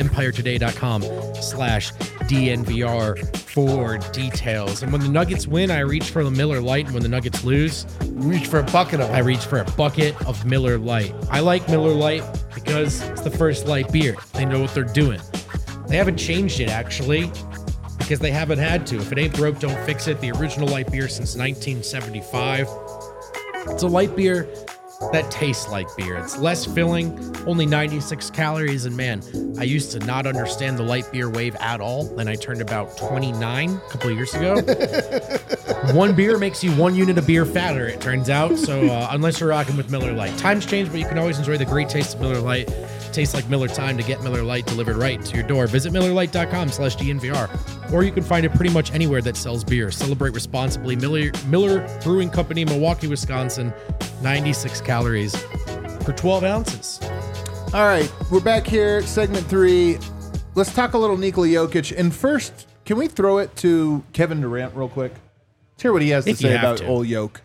Speaker 3: EmpireToday.com/DNVR for details. And when the Nuggets win, I reach for the Miller Lite. And when the Nuggets lose,
Speaker 2: Reach for a bucket of
Speaker 3: I reach for a bucket of Miller Lite. I like Miller Lite because it's the first light beer. They know what they're doing. They haven't changed it, actually, because they haven't had to. If it ain't broke, don't fix it. The original light beer since 1975. It's a light beer that tastes like beer. It's less filling, only 96 calories. And man, I used to not understand the light beer wave at all. Then I turned about 29 a couple of years ago. One beer makes you 1 unit of beer fatter, it turns out. So unless you're rocking with Miller Lite. Times change, but you can always enjoy the great taste of Miller Lite. Tastes like Miller time to get Miller Lite delivered right to your door. Visit MillerLite.com/DNVR, or you can find it pretty much anywhere that sells beer. Celebrate responsibly. Miller Brewing Company, Milwaukee, Wisconsin. 96 calories for 12 ounces.
Speaker 1: All right, we're back here, segment 3. Let's talk a little Nikola Jokic. And first, can we throw it to Kevin Durant real quick? Let's hear what he has to
Speaker 3: If you
Speaker 1: say
Speaker 3: have
Speaker 1: about
Speaker 3: to.
Speaker 1: old Yoke.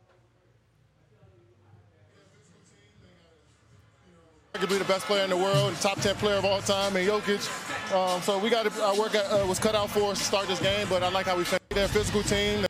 Speaker 5: Arguably the best player in the world, top 10 player of all time, and Jokic. So we got our work was cut out for us to start this game, but I like how we finished. They're a physical team.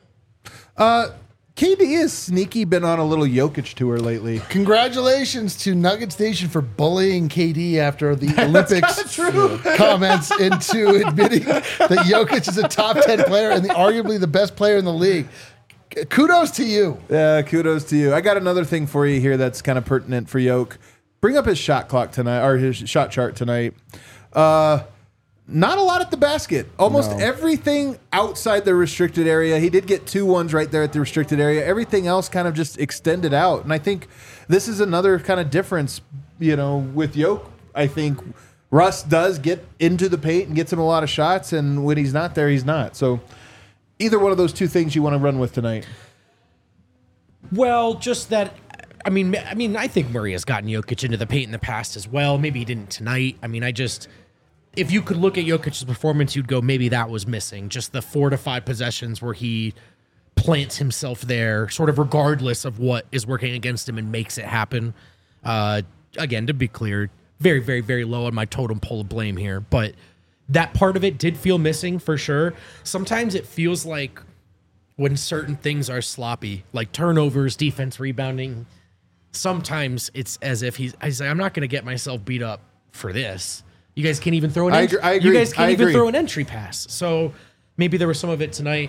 Speaker 1: KD has sneaky been on a little Jokic tour lately.
Speaker 2: Congratulations to Nuggets Nation for bullying KD after the Olympics comments into admitting that Jokic is a top 10 player and arguably the best player in the league. Kudos to you.
Speaker 1: Yeah, kudos to you. I got another thing for you here that's kind of pertinent for Yoke. Bring up his shot clock tonight, or his shot chart tonight. Not a lot at the basket. Almost everything outside the restricted area. He did get 2 ones right there at the restricted area. Everything else kind of just extended out. And I think this is another kind of difference, with Yoke. I think Russ does get into the paint and gets him a lot of shots, and when he's not there, he's not. So either one of those two things you want to run with tonight.
Speaker 3: Well, just that. I mean, I think Murray has gotten Jokic into the paint in the past as well. Maybe he didn't tonight. I mean, if you could look at Jokic's performance, you'd go, maybe that was missing. Just the 4 to 5 possessions where he plants himself there, sort of regardless of what is working against him and makes it happen. Again, to be clear, very, very, very low on my totem pole of blame here. But that part of it did feel missing for sure. Sometimes it feels like when certain things are sloppy, like turnovers, defense, rebounding, sometimes it's as if he's like, I'm not going to get myself beat up for this. You guys can't even throw an entry.
Speaker 1: I agree.
Speaker 3: You guys can't
Speaker 1: I
Speaker 3: even
Speaker 1: agree.
Speaker 3: throw an entry pass. So maybe there was some of it tonight.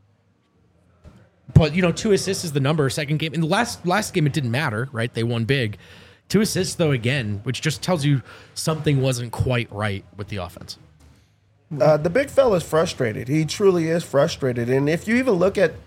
Speaker 3: But 2 assists is the number. Second game, in the last game, it didn't matter, right? They won big. 2 assists though, again, which just tells you something wasn't quite right with the offense.
Speaker 4: The big fella's frustrated. He truly is frustrated. And if you even look at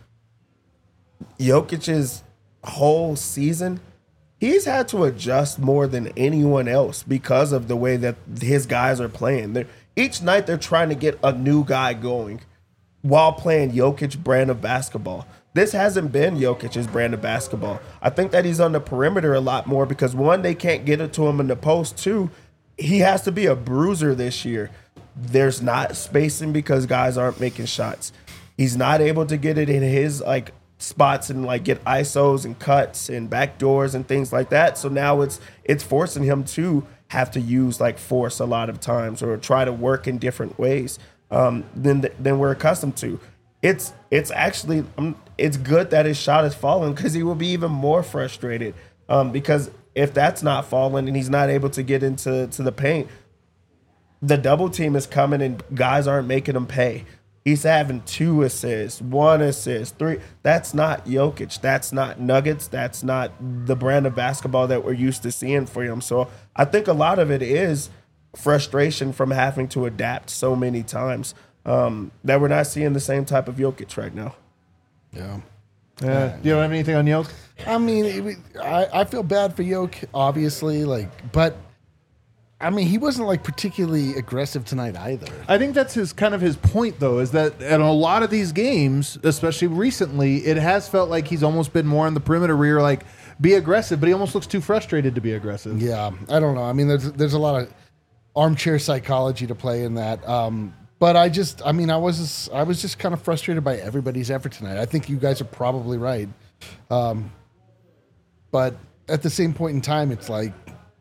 Speaker 4: Jokic's whole season, he's had to adjust more than anyone else because of the way that his guys are playing. Each night they're trying to get a new guy going while playing Jokic brand of basketball. This hasn't been Jokic's brand of basketball. I think that he's on the perimeter a lot more because, 1, they can't get it to him in the post. 2, he has to be a bruiser this year. There's not spacing because guys aren't making shots. He's not able to get it in his spots and get ISOs and cuts and backdoors and things like that. So now it's forcing him to have to use force a lot of times or try to work in different ways than we're accustomed to. It's actually it's good that his shot is falling because he will be even more frustrated because if that's not falling and he's not able to get into the paint, the double team is coming and guys aren't making him pay. He's having 2 assists, 1 assist, 3. That's not Jokic. That's not Nuggets. That's not the brand of basketball that we're used to seeing for him. So I think a lot of it is frustration from having to adapt so many times that we're not seeing the same type of Jokic right now.
Speaker 2: Yeah.
Speaker 1: Do you have anything on Yoke?
Speaker 2: I mean, I feel bad for Yoke, obviously, but I mean, he wasn't particularly aggressive tonight either.
Speaker 1: I think that's his point, though, is that in a lot of these games, especially recently, it has felt like he's almost been more on the perimeter where you're be aggressive, but he almost looks too frustrated to be aggressive.
Speaker 2: Yeah, I don't know. I mean, there's a lot of armchair psychology to play in that. But I was just kind of frustrated by everybody's effort tonight. I think you guys are probably right. But at the same point in time, it's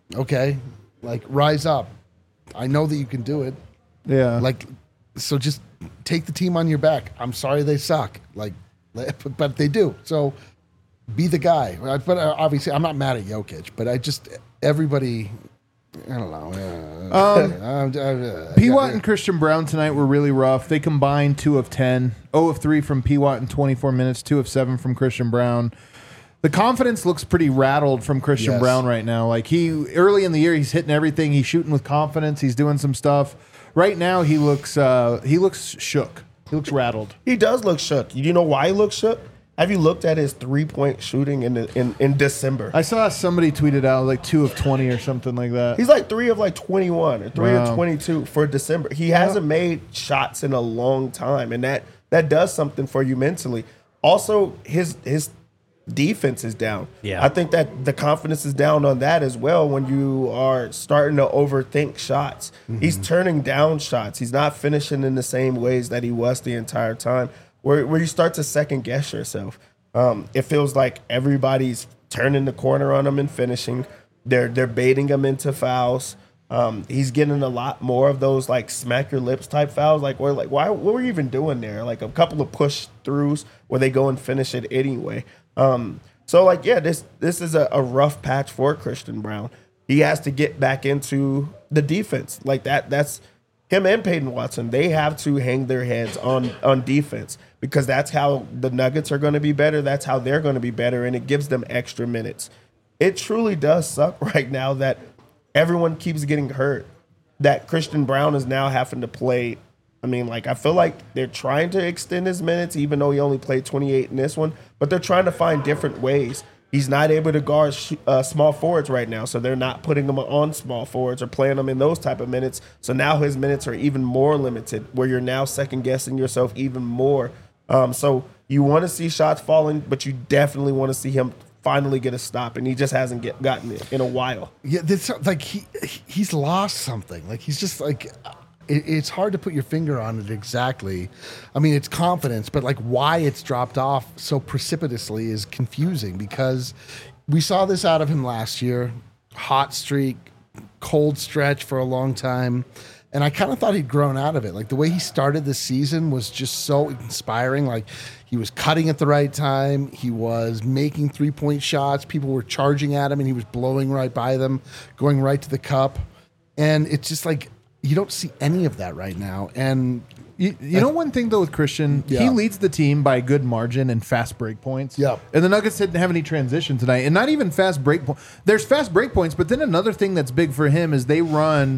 Speaker 2: Okay, like rise up. I know that you can do it.
Speaker 1: Yeah.
Speaker 2: Like, so just take the team on your back. I'm sorry they suck. Like, but they do. So be the guy. But obviously, I'm not mad at Jokic. But everybody. I don't know.
Speaker 1: P-Watt and Christian Brown tonight were really rough. They combined 2 of 10, 0 of 3 from P-Watt in 24 minutes, 2 of 7 from Christian Brown. The confidence looks pretty rattled from Christian Brown right now. Like early in the year, he's hitting everything. He's shooting with confidence. He's doing some stuff. Right now, he looks shook. He looks rattled.
Speaker 4: He does look shook. You know why he looks shook? Have you looked at his 3-point shooting in December?
Speaker 1: I saw somebody tweeted out like 2 of 20 or something like that.
Speaker 4: He's like 3 of like 21 or 3 of 22 for December. He hasn't made shots in a long time, and that does something for you mentally. Also, his defense is down.
Speaker 3: Yeah.
Speaker 4: I think that the confidence is down on that as well when you are starting to overthink shots. Mm-hmm. He's turning down shots. He's not finishing in the same ways that he was the entire time. Where you start to second guess yourself. It feels like everybody's turning the corner on him and finishing. They're baiting him into fouls. He's getting a lot more of those like smack your lips type fouls. Like why? What were you even doing there? Like a couple of push throughs where they go and finish it anyway. So like this is a rough patch for Christian Brown. He has to get back into the defense like that. That's him and Peyton Watson. They have to hang their heads on defense because that's how the Nuggets are going to be better. That's how they're going to be better, and it gives them extra minutes. It truly does suck right now that everyone keeps getting hurt, that Christian Brown is now having to play. I mean, like, I feel like they're trying to extend his minutes, even though he only played 28 in this one, but they're trying to find different ways. He's not able to guard small forwards right now, so they're not putting him on small forwards or playing him in those type of minutes. So now his minutes are even more limited, where you're now second-guessing yourself even more. So you want to see shots falling, but you definitely want to see him finally get a stop, and he just hasn't gotten it in a while.
Speaker 2: Yeah, like he's lost something. Like he's just like it's hard to put your finger on it exactly. I mean, it's confidence, but like why it's dropped off so precipitously is confusing because we saw this out of him last year. Hot streak, cold stretch for a long time. And I kind of thought he'd grown out of it. Like the way he started the season was just so inspiring. Like he was cutting at the right time. He was making 3-point shots. People were charging at him and he was blowing right by them, going right to the cup. And it's just like, you don't see any of that right now. And
Speaker 1: you know one thing, though, with Christian, he leads the team by a good margin in fast break points.
Speaker 2: Yep.
Speaker 1: And the Nuggets didn't have any transition tonight. And not even fast break points. There's fast break points, but then another thing that's big for him is they run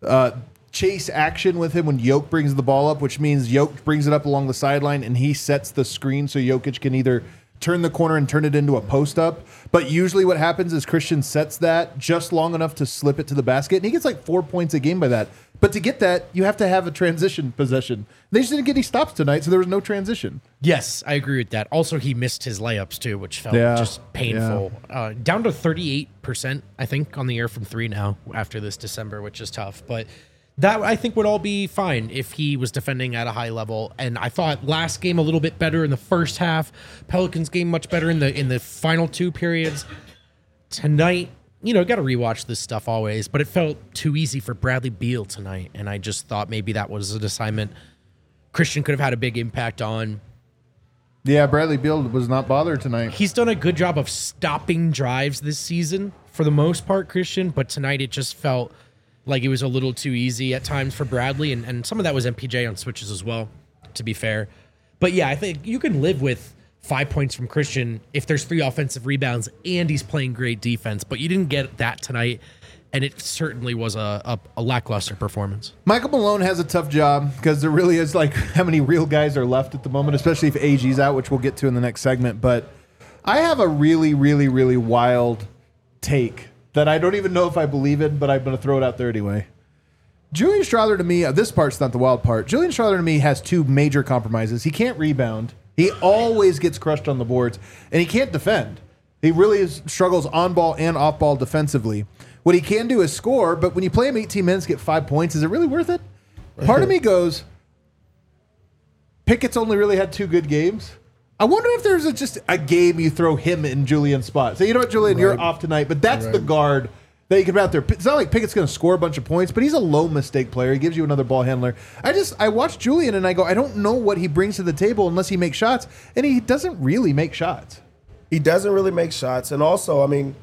Speaker 1: chase action with him when Jokic brings the ball up, which means Jokic brings it up along the sideline and he sets the screen so Jokic can either turn the corner and turn it into a post up. But usually what happens is Christian sets that just long enough to slip it to the basket, and he gets like 4 points a game by that. But to get that, you have to have a transition possession. They just didn't get any stops tonight, so there was no transition.
Speaker 3: Yes, I agree with that. Also, he missed his layups too, which felt just painful. Yeah. Down to 38%, I think, on the year from 3 now after this December, which is tough. But that, I think, would all be fine if he was defending at a high level. And I thought last game a little bit better in the first half. Pelicans game much better in the final 2 periods. Tonight, got to rewatch this stuff always, but it felt too easy for Bradley Beal tonight. And I just thought maybe that was an assignment Christian could have had a big impact on.
Speaker 1: Yeah, Bradley Beal was not bothered tonight.
Speaker 3: He's done a good job of stopping drives this season for the most part, Christian, but tonight it just felt like it was a little too easy at times for Bradley, and some of that was MPJ on switches as well, to be fair. But yeah, I think you can live with 5 points from Christian if there's 3 offensive rebounds and he's playing great defense, but you didn't get that tonight, and it certainly was a lackluster performance.
Speaker 1: Michael Malone has a tough job because there really is like how many real guys are left at the moment, especially if AG's out, which we'll get to in the next segment. But I have a really, really, really wild take that I don't even know if I believe it, but I'm going to throw it out there anyway. Julian Strawther, to me, this part's not the wild part. Julian Strawther, to me, has 2 major compromises. He can't rebound. He always gets crushed on the boards, and he can't defend. He really struggles on ball and off ball defensively. What he can do is score, but when you play him 18 minutes, get 5 points, is it really worth it? Part of me goes, Pickett's only really had 2 good games. I wonder if there's just a game you throw him in Julian's spot. Say, you know what, Julian, you're off tonight, but that's the guard that you could put out there. It's not like Pickett's going to score a bunch of points, but he's a low mistake player. He gives you another ball handler. I watch Julian and I go, I don't know what he brings to the table unless he makes shots, and he doesn't really make shots.
Speaker 4: He doesn't really make shots, and also, I mean,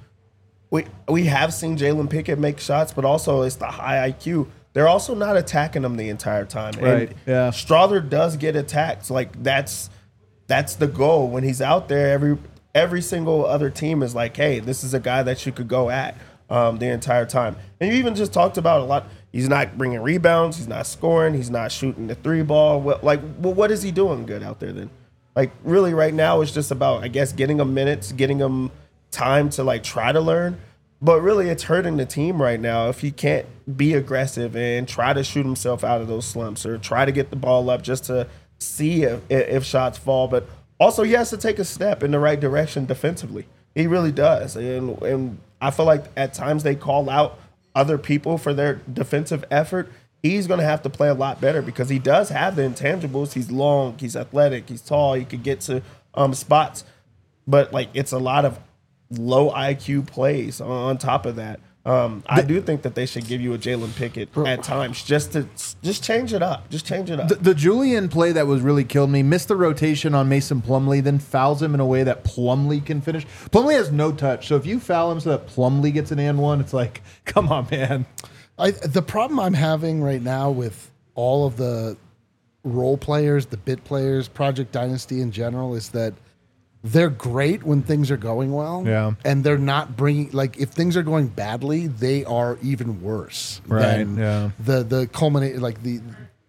Speaker 4: we have seen Jalen Pickett make shots, but also it's the high IQ. They're also not attacking him the entire time.
Speaker 1: Right.
Speaker 4: And
Speaker 1: yeah.
Speaker 4: Strawther does get attacked. So, like that's the goal when he's out there. Every single other team is like, hey, this is a guy that you could go at the entire time. And you even just talked about a lot. He's not bringing rebounds. He's not scoring. He's not shooting the 3-ball. What is he doing good out there then? Like, really, right now, it's just about, I guess, getting him minutes, getting him time to like try to learn. But really, it's hurting the team right now if he can't be aggressive and try to shoot himself out of those slumps or try to get the ball up just to see if shots fall. But also, he has to take a step in the right direction defensively. He really does. And I feel like at times they call out other people for their defensive effort. He's going to have to play a lot better because he does have the intangibles. He's long, he's athletic, he's tall, he could get to spots. But, like, it's a lot of low IQ plays on top of that. I do think that they should give you a Jalen Pickett at times just change it up. Just change it up.
Speaker 1: The Julian play that was really killed me, missed the rotation on Mason Plumlee, then fouls him in a way that Plumlee can finish. Plumlee has no touch, so if you foul him so that Plumlee gets an and one, it's like, come on, man.
Speaker 2: The problem I'm having right now with all of the role players, the bit players, Project Dynasty in general, is that they're great when things are going well.
Speaker 1: Yeah.
Speaker 2: And they're not bringing, like, if things are going badly, they are even worse than the culminate, like the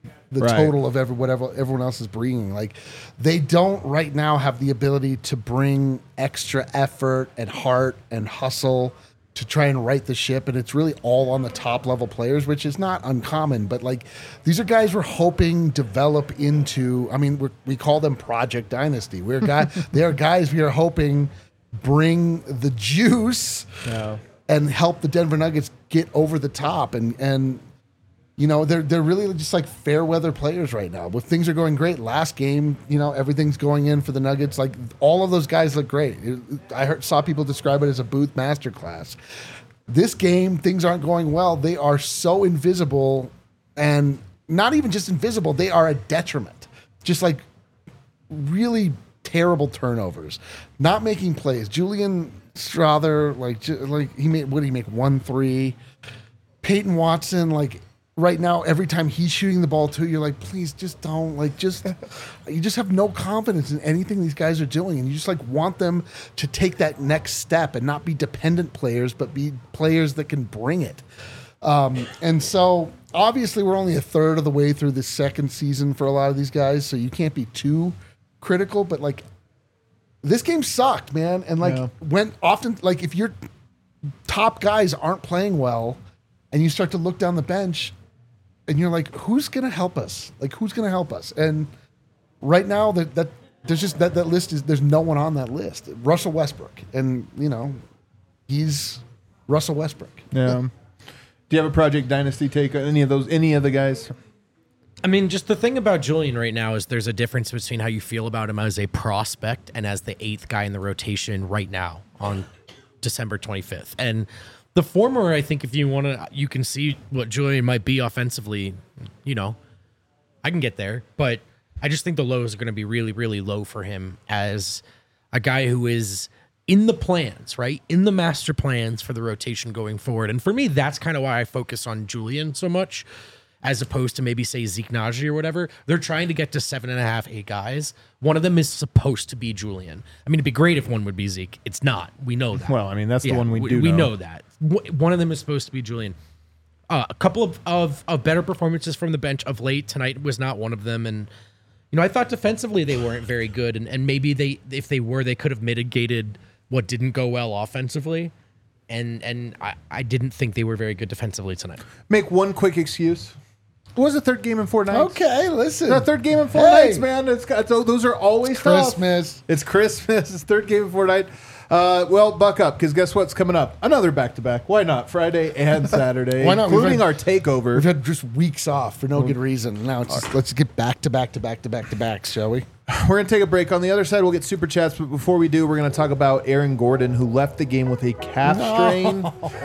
Speaker 2: total of whatever everyone else is bringing. Like, they don't right now have the ability to bring extra effort and heart and hustle to try and right the ship, and it's really all on the top level players, which is not uncommon. But like, these are guys we're hoping develop into. I mean, we call them Project Dynasty. They are guys we are hoping bring the juice and help the Denver Nuggets get over the top. And you know, they're really just like fair weather players right now. But things are going great. Last game, you know, everything's going in for the Nuggets. Like, all of those guys look great. Saw people describe it as a Booth masterclass. This game, things aren't going well. They are so invisible, and not even just invisible. They are a detriment. Just like really terrible turnovers, not making plays. Julian Strawther, like he made, what did he make? 1-3. Peyton Watson, like, right now, every time he's shooting the ball too, you're like, please just don't, like, you just have no confidence in anything these guys are doing, and you just like want them to take that next step and not be dependent players, but be players that can bring it. And so obviously we're only a third of the way through the second season for a lot of these guys, so you can't be too critical, but like, this game sucked, man. And like, when often, like, if your top guys aren't playing well and you start to look down the bench, and you're like, who's going to help us? Like, who's going to help us? And right now, that there's just that list is, there's no one on that list. Russell Westbrook, and you know, he's Russell Westbrook.
Speaker 1: Yeah. Do you have a Project Dynasty take on any of the guys?
Speaker 3: I mean, just the thing about Julian right now is there's a difference between how you feel about him as a prospect and as the 8th guy in the rotation right now on December 25th. And the former, I think, if you want to, you can see what Julian might be offensively. You know, I can get there, but I just think the lows are going to be really, really low for him as a guy who is in the plans, right? In the master plans for the rotation going forward. And for me, that's kind of why I focus on Julian so much, as opposed to maybe say Zeke Naji or whatever. They're trying to get to 7.5, 8 guys. One of them is supposed to be Julian. I mean, it'd be great if one would be Zeke. It's not. We know that.
Speaker 1: Well, I mean, that's the one we do
Speaker 3: We
Speaker 1: know.
Speaker 3: know that. One of them is supposed to be Julian. A couple of better performances from the bench of late. Tonight was not one of them. And, you know, I thought defensively they weren't very good. And maybe if they were, they could have mitigated what didn't go well offensively. And I didn't think they were very good defensively tonight.
Speaker 1: Make one quick excuse. It was the third game in 4 nights.
Speaker 2: Okay, listen.
Speaker 1: The third game in 4 nights, man. Those are always
Speaker 2: Christmas.
Speaker 1: Tough. It's Christmas. It's third game in 4 nights. Well, buck up, because guess what's coming up? Another back-to-back. Why not? Friday and Saturday.
Speaker 2: Why not?
Speaker 1: Including our takeover.
Speaker 2: We've had just weeks off for no good reason. Now it's just, let's get back to back, shall we?
Speaker 1: We're going to take a break. On the other side, we'll get super chats. But before we do, we're going to talk about Aaron Gordon, who left the game with a calf strain.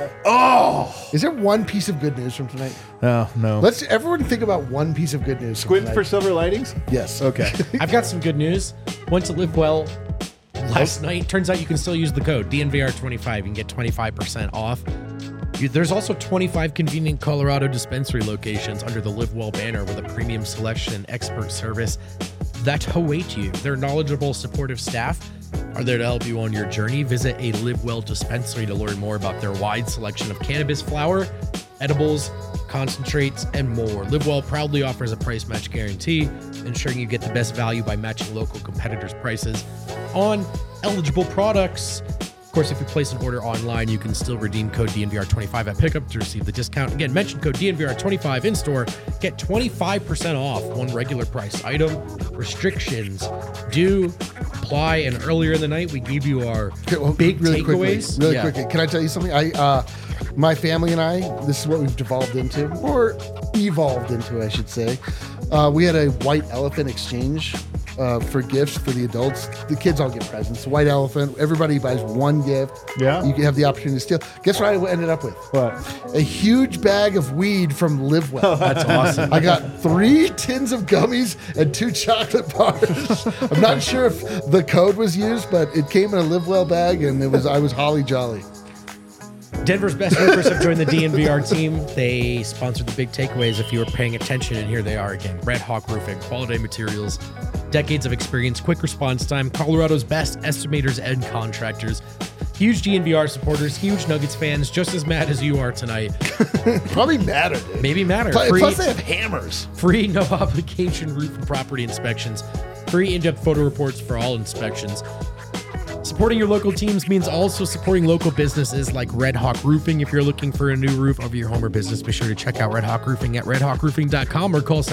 Speaker 2: Is there one piece of good news from tonight?
Speaker 1: Oh, no.
Speaker 2: Let's everyone think about one piece of good news. from
Speaker 1: Squint
Speaker 2: tonight.
Speaker 1: for silver linings?
Speaker 2: Yes.
Speaker 1: Okay.
Speaker 3: I've got some good news. Went to Live Well last night. Turns out you can still use the code DNVR25. You can get 25% off. There's also 25 convenient Colorado dispensary locations under the Live Well banner with a premium selection and expert service that await you. Their knowledgeable, supportive staff are there to help you on your journey. Visit a Live Well dispensary to learn more about their wide selection of cannabis flower, edibles, concentrates, and more. Live Well proudly offers a price match guarantee, ensuring you get the best value by matching local competitors' prices on eligible products. Of course, if you place an order online, you can still redeem code DNVR25 at pickup to receive the discount. Again, mention code DNVR25 in store. Get 25% off one regular price item. Restrictions do apply. And earlier in the night, we gave you our big takeaways.
Speaker 2: Really quickly, can I tell you something? My family and I, this is what we've devolved into, or evolved into, I should say. We had a white elephant exchange for gifts for the adults. The kids all get presents. White elephant. Everybody buys one gift.
Speaker 1: Yeah.
Speaker 2: You can have the opportunity to steal. Guess what I ended up with?
Speaker 1: What?
Speaker 2: A huge bag of weed from Live Well.
Speaker 3: That's awesome.
Speaker 2: I got 3 tins of gummies and 2 chocolate bars. I'm not sure if the code was used, but it came in a Live Well bag, and I was holly jolly.
Speaker 3: Denver's best roofers have joined the DNVR team. They sponsored the big takeaways if you were paying attention, and here they are again. Red Hawk Roofing, quality materials, decades of experience, quick response time, Colorado's best estimators and contractors. Huge DNVR supporters, huge Nuggets fans, just as mad as you are tonight.
Speaker 2: Probably madder, dude.
Speaker 3: Maybe madder.
Speaker 2: Plus they have hammers.
Speaker 3: Free, no obligation roof and property inspections. Free in-depth photo reports for all inspections. Supporting your local teams means also supporting local businesses like Red Hawk Roofing. If you're looking for a new roof of your home or business, be sure to check out Red Hawk Roofing at redhawkroofing.com or call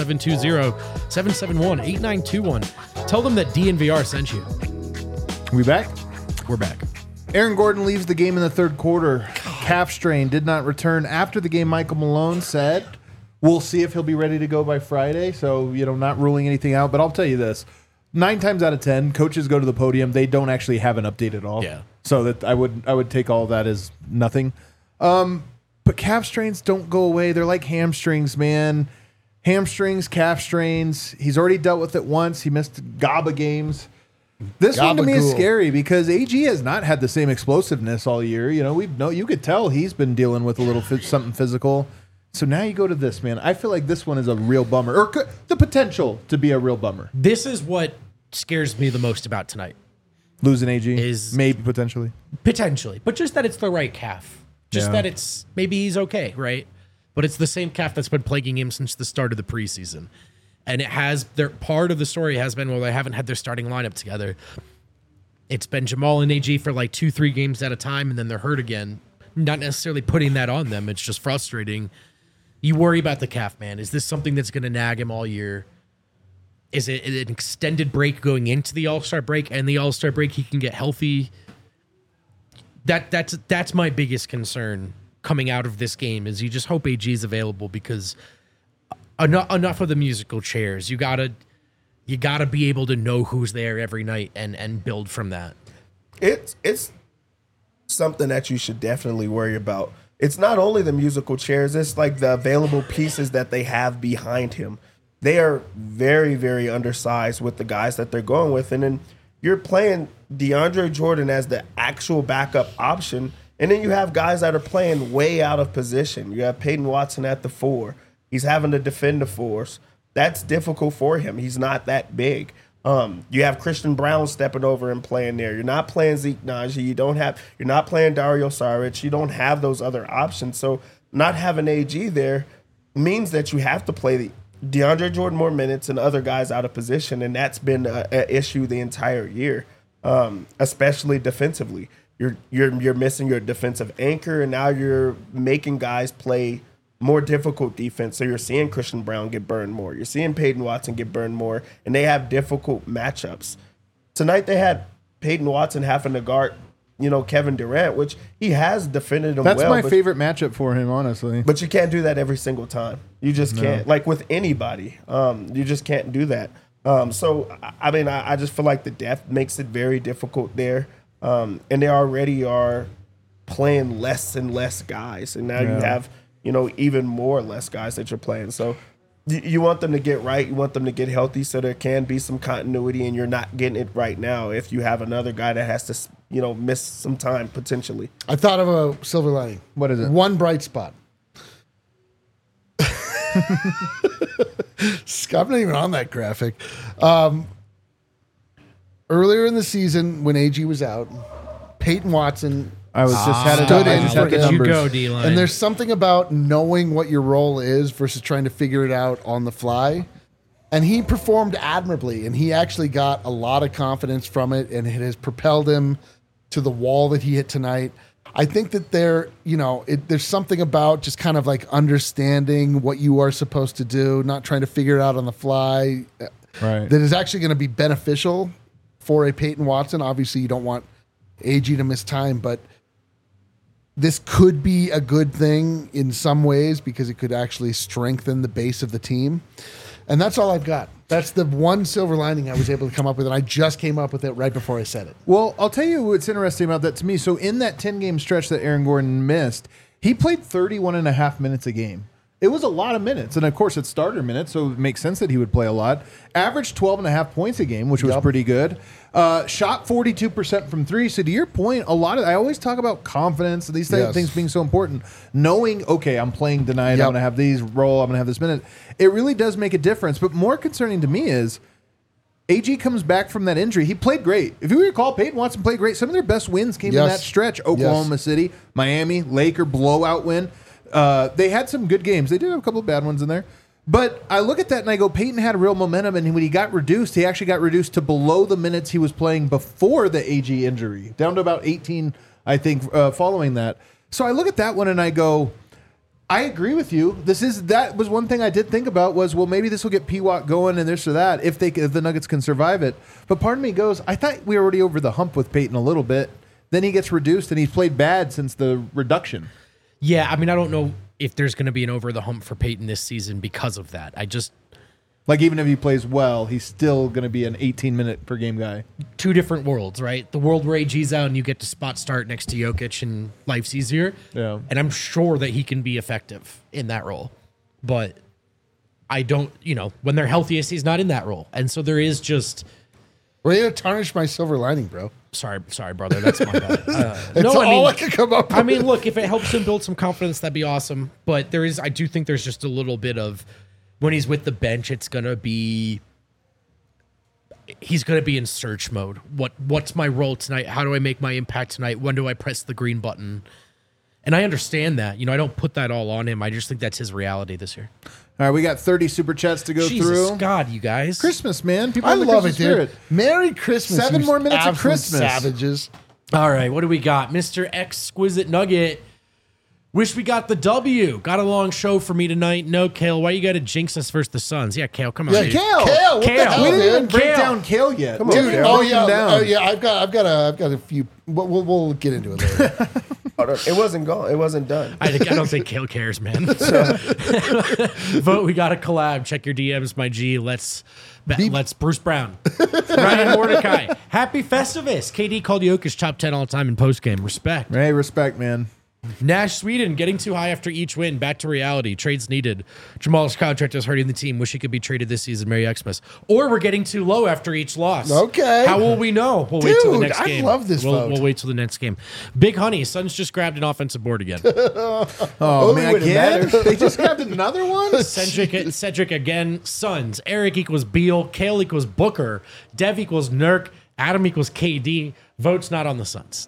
Speaker 3: 720-771-8921. Tell them that DNVR sent you.
Speaker 1: We back?
Speaker 3: We're back.
Speaker 1: Aaron Gordon leaves the game in the third quarter. Calf strain, did not return. After the game, Michael Malone said, we'll see if he'll be ready to go by Friday. So, not ruling anything out. But I'll tell you this. 9 times out of 10, coaches go to the podium. They don't actually have an update at all.
Speaker 3: Yeah.
Speaker 1: So that I would take all of that as nothing. But calf strains don't go away. They're like hamstrings, man. Hamstrings, calf strains. He's already dealt with it once. He missed GABA games. This one to me is scary because AG has not had the same explosiveness all year. You could tell he's been dealing with a little something physical. So now you go to this, man. I feel like this one is a real bummer, or the potential to be a real bummer.
Speaker 3: This is what scares me the most about tonight.
Speaker 1: Losing AG
Speaker 3: is
Speaker 1: maybe potentially,
Speaker 3: but just that it's the right calf. Just that it's maybe he's okay, right? But it's the same calf that's been plaguing him since the start of the preseason, and it has. Part of the story has been they haven't had their starting lineup together. It's been Jamal and AG for like 2-3 games at a time, and then they're hurt again. Not necessarily putting that on them. It's just frustrating. You worry about the calf, man. Is this something that's going to nag him all year? Is it an extended break going into the All-Star break, and the All-Star break he can get healthy? That's my biggest concern coming out of this game. Is you just hope AG is available because enough of the musical chairs. You gotta be able to know who's there every night and build from that.
Speaker 4: It's something that you should definitely worry about. It's not only the musical chairs, it's like the available pieces that they have behind him. They are very, very undersized with the guys that they're going with. And then you're playing DeAndre Jordan as the actual backup option. And then you have guys that are playing way out of position. You have Peyton Watson at the 4. He's having to defend the 4s. That's difficult for him. He's not that big. You have Christian Brown stepping over and playing there. You're not playing Zeke Nnaji. You're not playing Dario Saric. You don't have those other options. So not having AG there means that you have to play the DeAndre Jordan more minutes and other guys out of position, and that's been an issue the entire year, especially defensively. You're missing your defensive anchor, and now you're making guys play more difficult defense. So you're seeing Christian Brown get burned more. You're seeing Peyton Watson get burned more, and they have difficult matchups. Tonight they had Peyton Watson having to guard, Kevin Durant, which he has defended him well.
Speaker 1: That's my favorite matchup for him, honestly.
Speaker 4: But you can't do that every single time. You just can't. Like with anybody, you just can't do that. So, I mean, I just feel like the depth makes it very difficult there. And they already are playing less and less guys. And now you have, even more less guys that you're playing. So you want them to get right. You want them to get healthy so there can be some continuity, and you're not getting it right now if you have another guy that has to, miss some time potentially.
Speaker 2: I thought of a silver lining.
Speaker 1: What is it?
Speaker 2: One bright spot. I'm not even on that graphic. Earlier in the season, when AG was out, Peyton Watson
Speaker 1: I was just had it.
Speaker 2: stood
Speaker 1: I
Speaker 2: in
Speaker 1: just
Speaker 2: for
Speaker 1: had the
Speaker 2: him.
Speaker 3: You
Speaker 1: numbers.
Speaker 3: go, D-line.
Speaker 2: And there's something about knowing what your role is versus trying to figure it out on the fly. And he performed admirably, and he actually got a lot of confidence from it, and it has propelled him to the wall that he hit tonight. I think that there's something about just kind of like understanding what you are supposed to do, not trying to figure it out on the fly,
Speaker 1: Right.
Speaker 2: that is actually going to be beneficial for a Peyton Watson. Obviously, you don't want AG to miss time, but this could be a good thing in some ways because it could actually strengthen the base of the team. And that's all I've got. That's the one silver lining I was able to come up with, and I just came up with it right before I said it.
Speaker 1: Well, I'll tell you what's interesting about that to me. So in that 10-game stretch that Aaron Gordon missed, he played 31 and a half minutes a game. It was a lot of minutes. And, of course, it's starter minutes, so it makes sense that he would play a lot. Averaged 12 and a half points a game, which was pretty good. Shot 42% from three. So to your point, I always talk about confidence, these things being so important. Knowing, okay, I'm playing tonight, I'm going to have these roll, I'm going to have this minute. It really does make a difference. But more concerning to me is AG comes back from that injury. He played great. If you recall, Peyton Watson played great. Some of their best wins came in that stretch. Oklahoma City, Miami, Laker blowout win. They had some good games. They did have a couple of bad ones in there. But I look at that and I go, Peyton had real momentum, and when he got reduced, he actually got reduced to below the minutes he was playing before the AG injury, down to about 18, I think, following that. So I look at that one and I go, I agree with you. That was one thing I did think about was, well, maybe this will get P-Watt going and this or that if the Nuggets can survive it. But part of me goes, I thought we were already over the hump with Peyton a little bit. Then he gets reduced, and he's played bad since the reduction.
Speaker 3: Yeah, I mean, I don't know if there's going to be an over the hump for Peyton this season because of that.
Speaker 1: Like, even if he plays well, he's still going to be an 18-minute per game guy.
Speaker 3: Two different worlds, right? The world where AG's out and you get to spot start next to Jokic and life's easier.
Speaker 1: Yeah.
Speaker 3: And I'm sure that he can be effective in that role. But I don't, when they're healthiest, he's not in that role. And so there is just...
Speaker 2: Ready to tarnish my silver lining, bro.
Speaker 3: Sorry, brother. That's my bad.
Speaker 2: It's all I could come up with.
Speaker 3: I mean, look, if it helps him build some confidence, that'd be awesome. But I do think there's just a little bit of, when he's with the bench, he's going to be in search mode. What's my role tonight? How do I make my impact tonight? When do I press the green button? And I understand that. I don't put that all on him. I just think that's his reality this year.
Speaker 1: All right, we got 30 super chats to go
Speaker 3: Jesus
Speaker 1: through.
Speaker 3: God, you guys.
Speaker 1: Christmas, man. People
Speaker 2: I
Speaker 1: have the
Speaker 2: love it,
Speaker 1: Christmas spirit.
Speaker 2: dude. Merry Christmas.
Speaker 1: 7
Speaker 2: you
Speaker 1: more minutes of
Speaker 2: absolute
Speaker 1: Christmas.
Speaker 2: Savages.
Speaker 3: All right, what do we got? Mr. Exquisite Nugget. Wish we got the W. Got a long show for me tonight. No, Kale. Why you got to jinx us versus the Suns? Yeah, Kale, come on.
Speaker 2: Yeah,
Speaker 3: dude.
Speaker 1: Kale.
Speaker 2: Kale, what the
Speaker 3: Kale.
Speaker 2: hell,
Speaker 1: We didn't even
Speaker 2: dude?
Speaker 1: break
Speaker 3: Kale.
Speaker 1: down Kale yet.
Speaker 4: Come on,
Speaker 2: Dude,
Speaker 4: Kale.
Speaker 2: oh
Speaker 1: Broke him
Speaker 2: yeah,
Speaker 1: down.
Speaker 2: I've got a few. We'll get into it later.
Speaker 4: It wasn't gone. It wasn't done.
Speaker 3: I don't think Kale cares, man. Vote. We got a collab. Check your DMs, my G. Let's Bruce Brown, Ryan Mordecai. Happy Festivus. KD called Jokic top 10 all time in postgame. Respect.
Speaker 1: Hey, respect, man.
Speaker 3: Nash Sweden getting too high after each win. Back to reality. Trades needed. Jamal's contract is hurting the team. Wish he could be traded this season. Merry Xmas. Or we're getting too low after each loss.
Speaker 2: Okay.
Speaker 3: How will we know? We'll wait till the
Speaker 2: Dude,
Speaker 3: next
Speaker 2: I
Speaker 3: game.
Speaker 2: love this vote.
Speaker 3: We'll wait till the next game. Big Honey. Suns just grabbed an offensive board again.
Speaker 1: Oh, man,
Speaker 4: wouldn't
Speaker 1: again?
Speaker 4: matter.
Speaker 1: They just grabbed another one?
Speaker 3: Cedric again. Suns. Eric equals Beal. Kale equals Booker. Dev equals Nurk. Adam equals KD. Votes not on the Suns.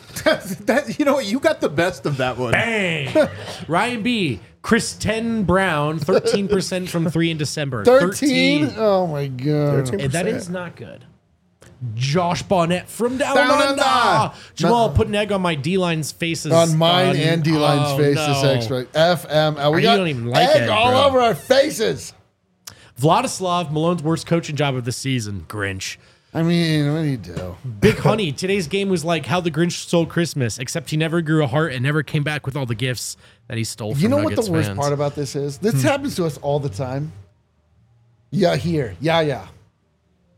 Speaker 1: You know what? You got the best of that one.
Speaker 3: Bang! Ryan B. Kristen Brown, 13% from 3 in December.
Speaker 2: 13? Oh my god.
Speaker 4: 13%.
Speaker 3: And that is not good. Josh Barnett from down,
Speaker 1: Down
Speaker 3: under.
Speaker 1: under.
Speaker 3: Jamal, put an egg on my D-line's faces.
Speaker 2: On mine and D-Line's face
Speaker 3: no.
Speaker 2: this extra. FML. We
Speaker 3: You
Speaker 2: got
Speaker 3: don't even like
Speaker 2: egg
Speaker 3: egg,
Speaker 2: all
Speaker 3: bro.
Speaker 2: over our faces.
Speaker 3: Vladislav, Malone's worst coaching job of the season. Grinch.
Speaker 2: I mean, what do you do?
Speaker 3: Big Honey, today's game was like how the Grinch stole Christmas, except he never grew a heart and never came back with all the gifts that he stole from
Speaker 2: You know what
Speaker 3: Nuggets
Speaker 2: the worst
Speaker 3: fans.
Speaker 2: part about this is? This happens to us all the time. Yeah, here. Yeah.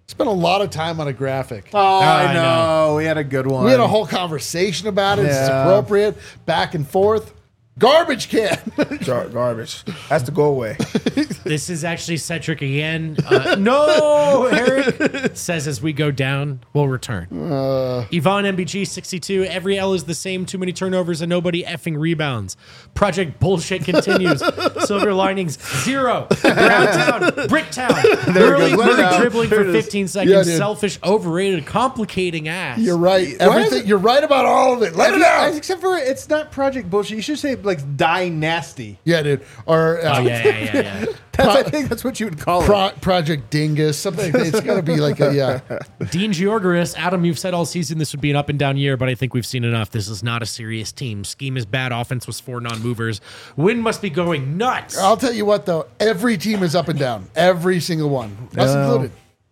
Speaker 2: Spent a lot of time on a graphic.
Speaker 1: Oh, I
Speaker 3: I
Speaker 1: know. We had a good one.
Speaker 2: We had a whole conversation about it. It's
Speaker 1: Yeah.
Speaker 2: appropriate. Back and forth. Garbage can.
Speaker 4: Garbage. Has to go away.
Speaker 3: This is actually Cedric again. No, Eric says as we go down, we'll return. Yvonne MBG 62. Every L is the same. Too many turnovers and nobody effing rebounds. Project bullshit continues. Silver linings 0. Browntown, Bricktown.
Speaker 1: There it
Speaker 3: Early
Speaker 1: goes. Let it
Speaker 3: Murray
Speaker 1: out.
Speaker 3: dribbling
Speaker 1: There
Speaker 3: for
Speaker 1: it is.
Speaker 3: 15 seconds.
Speaker 2: Yeah, dude.
Speaker 3: Selfish, overrated, complicating ass.
Speaker 2: You're right.
Speaker 1: Why
Speaker 2: Everything.
Speaker 1: is
Speaker 2: You're right about all of it. Let it out.
Speaker 1: Except for it's not Project Bullshit. You should say like Dynasty.
Speaker 2: Yeah, dude. Or
Speaker 3: Oh yeah.
Speaker 1: I think that's what you would call it.
Speaker 2: Project Dingus. Something. It's got to be like a
Speaker 3: Dean Georgaris, Adam, you've said all season this would be an up and down year, but I think we've seen enough. This is not a serious team. Scheme is bad. Offense was 4 non-movers. Win must be going nuts.
Speaker 2: I'll tell you what, though. Every team is up and down. Every single one, us included.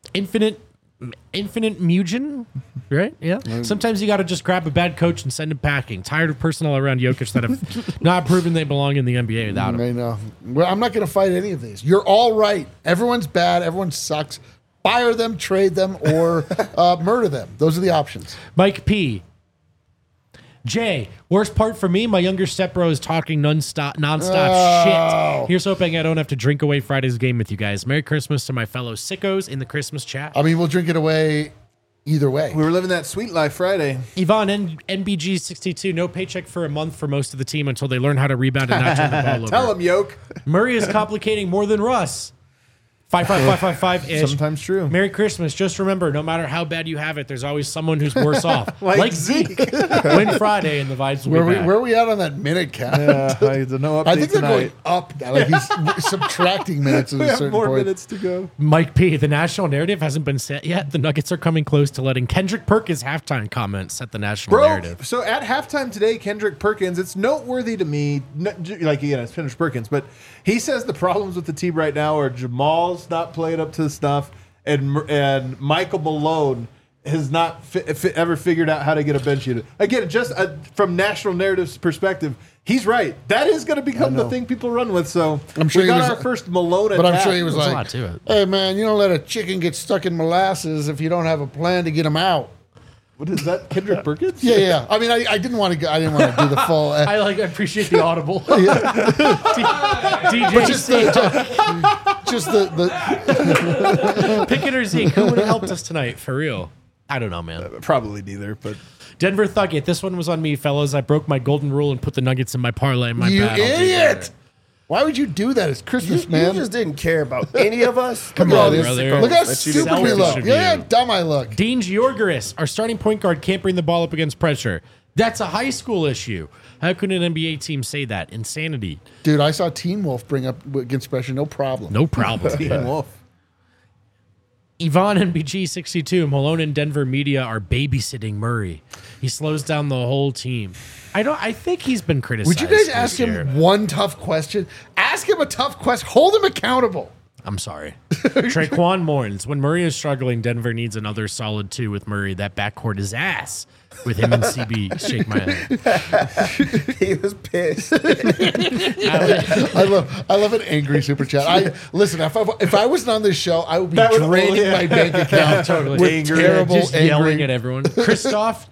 Speaker 3: Infinite Mugen, right? Yeah. Sometimes you got to just grab a bad coach and send him packing. Tired of personnel around Jokic that have not proven they belong in the NBA without him.
Speaker 2: I know. Well, I'm not going to fight any of these. You're all right. Everyone's bad. Everyone sucks. Fire them, trade them, or murder them. Those are the options.
Speaker 3: Mike P. Jay, worst part for me, my younger stepbro is talking nonstop shit. Here's hoping I don't have to drink away Friday's game with you guys. Merry Christmas to my fellow sickos in the Christmas chat.
Speaker 2: I mean, we'll drink it away either way.
Speaker 1: We were living that sweet life Friday.
Speaker 3: Yvonne, NBG 62, no paycheck for a month for most of the team until they learn how to rebound and not turn the ball over.
Speaker 1: Tell him, Yoke.
Speaker 3: Murray is complicating more than Russ. 55555-ish.
Speaker 1: Sometimes true.
Speaker 3: Merry Christmas. Just remember, no matter how bad you have it, there's always someone who's worse off.
Speaker 1: Like Zeke.
Speaker 3: Win Friday and the vibes will be back.
Speaker 2: Where are we at on that minute count?
Speaker 1: No update
Speaker 2: I think they're
Speaker 1: tonight.
Speaker 2: going up now. Like he's subtracting minutes at
Speaker 1: We
Speaker 2: a
Speaker 1: have
Speaker 2: certain
Speaker 1: more
Speaker 2: point.
Speaker 1: minutes to go.
Speaker 3: Mike P., the national narrative hasn't been set yet. The Nuggets are coming close to letting Kendrick Perkins' halftime comments set the national narrative.
Speaker 1: So at halftime today, Kendrick Perkins, it's noteworthy to me, like, again, it's Kendrick Perkins, but he says the problems with the team right now are Jamal's not playing up to the stuff, and Michael Malone has not ever figured out how to get a bench unit. Again, just from national narrative's perspective, he's right. That is going to become the thing people run with. So
Speaker 2: I'm sure
Speaker 1: we
Speaker 2: he
Speaker 1: got
Speaker 2: was-
Speaker 1: our first Malone attack.
Speaker 2: But I'm sure he was
Speaker 3: There's a
Speaker 2: like,
Speaker 3: lot to it.
Speaker 2: hey, man, you don't let a chicken get stuck in molasses if you don't have a plan to get him out.
Speaker 1: What is that, Kendrick Perkins?
Speaker 2: Yeah. I mean, I didn't want to go. I didn't want to do the full.
Speaker 3: I appreciate the audible. DJ
Speaker 2: Just the
Speaker 3: Pickett or Zeke, who would have helped us tonight? For real. I don't know, man.
Speaker 1: Probably neither, but
Speaker 3: Denver Thuggett, this one was on me, fellas. I broke my golden rule and put the Nuggets in my parlay. My
Speaker 2: you
Speaker 3: bad. I'll do
Speaker 2: idiot.
Speaker 3: better.
Speaker 2: Why would you do that? It's Christmas,
Speaker 4: You
Speaker 2: man.
Speaker 4: just didn't care about any of us.
Speaker 2: Come
Speaker 4: Look at all
Speaker 2: on,
Speaker 4: these
Speaker 3: brother.
Speaker 4: sickos
Speaker 2: Look how
Speaker 4: that you
Speaker 2: stupid
Speaker 4: didn't
Speaker 2: we
Speaker 4: care
Speaker 2: look.
Speaker 4: about.
Speaker 3: of
Speaker 2: Yeah,
Speaker 3: you.
Speaker 2: how dumb I look.
Speaker 3: Dean Georgaris, our starting point guard can't bring the ball up against pressure. That's a high school issue. How could an NBA team say that? Insanity.
Speaker 2: Dude, I saw Teen Wolf bring up against pressure, no problem.
Speaker 3: No problem.
Speaker 1: Teen Wolf.
Speaker 3: Yvonne NBG 62, Malone and Denver media are babysitting Murray. He slows down the whole team. I think he's been criticized.
Speaker 2: Would you guys
Speaker 3: this
Speaker 2: ask
Speaker 3: year.
Speaker 2: him one tough question? Ask him a tough question. Hold him accountable.
Speaker 3: I'm sorry. Traquan mourns. When Murray is struggling, Denver needs another solid 2 with Murray. That backcourt is ass. With him and CB, shake my head.
Speaker 4: He was pissed.
Speaker 2: I love an angry super chat. Listen. If I wasn't on this show, I would be draining my bank account
Speaker 3: Totally.
Speaker 2: with
Speaker 1: Angry.
Speaker 2: terrible,
Speaker 3: Just yelling
Speaker 2: angry.
Speaker 3: at everyone. Christoph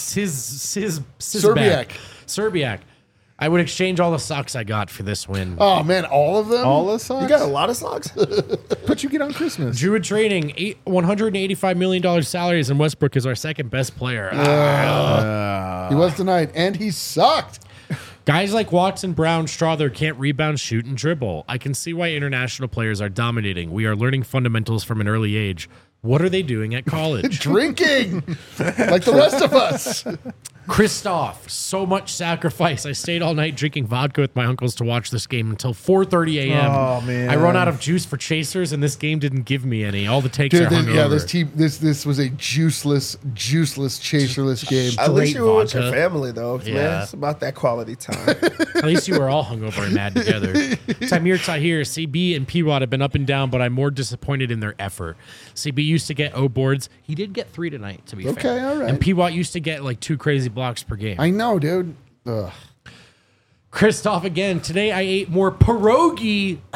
Speaker 3: Serbiak. I would exchange all the socks I got for this win.
Speaker 2: Oh man, all of them.
Speaker 1: All the socks?
Speaker 4: You got a lot of socks.
Speaker 1: But you get on Christmas.
Speaker 3: Druid Trading, $185 million salaries, and Westbrook is our second best player.
Speaker 2: He was tonight, and he sucked.
Speaker 3: Guys like Watson, Brown, Strother can't rebound, shoot, and dribble. I can see why international players are dominating. We are learning fundamentals from an early age. What are they doing at college?
Speaker 2: Drinking, like the rest of us.
Speaker 3: Christoph, so much sacrifice. I stayed all night drinking vodka with my uncles to watch this game until 4:30 a.m.
Speaker 1: Oh, man.
Speaker 3: I run out of juice for chasers, and this game didn't give me any. All the takes
Speaker 2: Dude,
Speaker 3: are hungover.
Speaker 2: this team, this was a juiceless, chaserless game.
Speaker 4: At least you were with
Speaker 3: vodka.
Speaker 4: your family, though.
Speaker 3: Yeah.
Speaker 4: Man, it's about that quality time.
Speaker 3: At least you were all hungover and mad together. Tamir Tahir, CB and P-Watt have been up and down, but I'm more disappointed in their effort. CB used to get O boards. He did get 3 tonight, to be fair.
Speaker 2: Okay, all right.
Speaker 3: And P-Watt used to get like 2 crazy blocks per game.
Speaker 2: I know, dude. Ugh.
Speaker 3: Christoph again. Today I ate more pierogi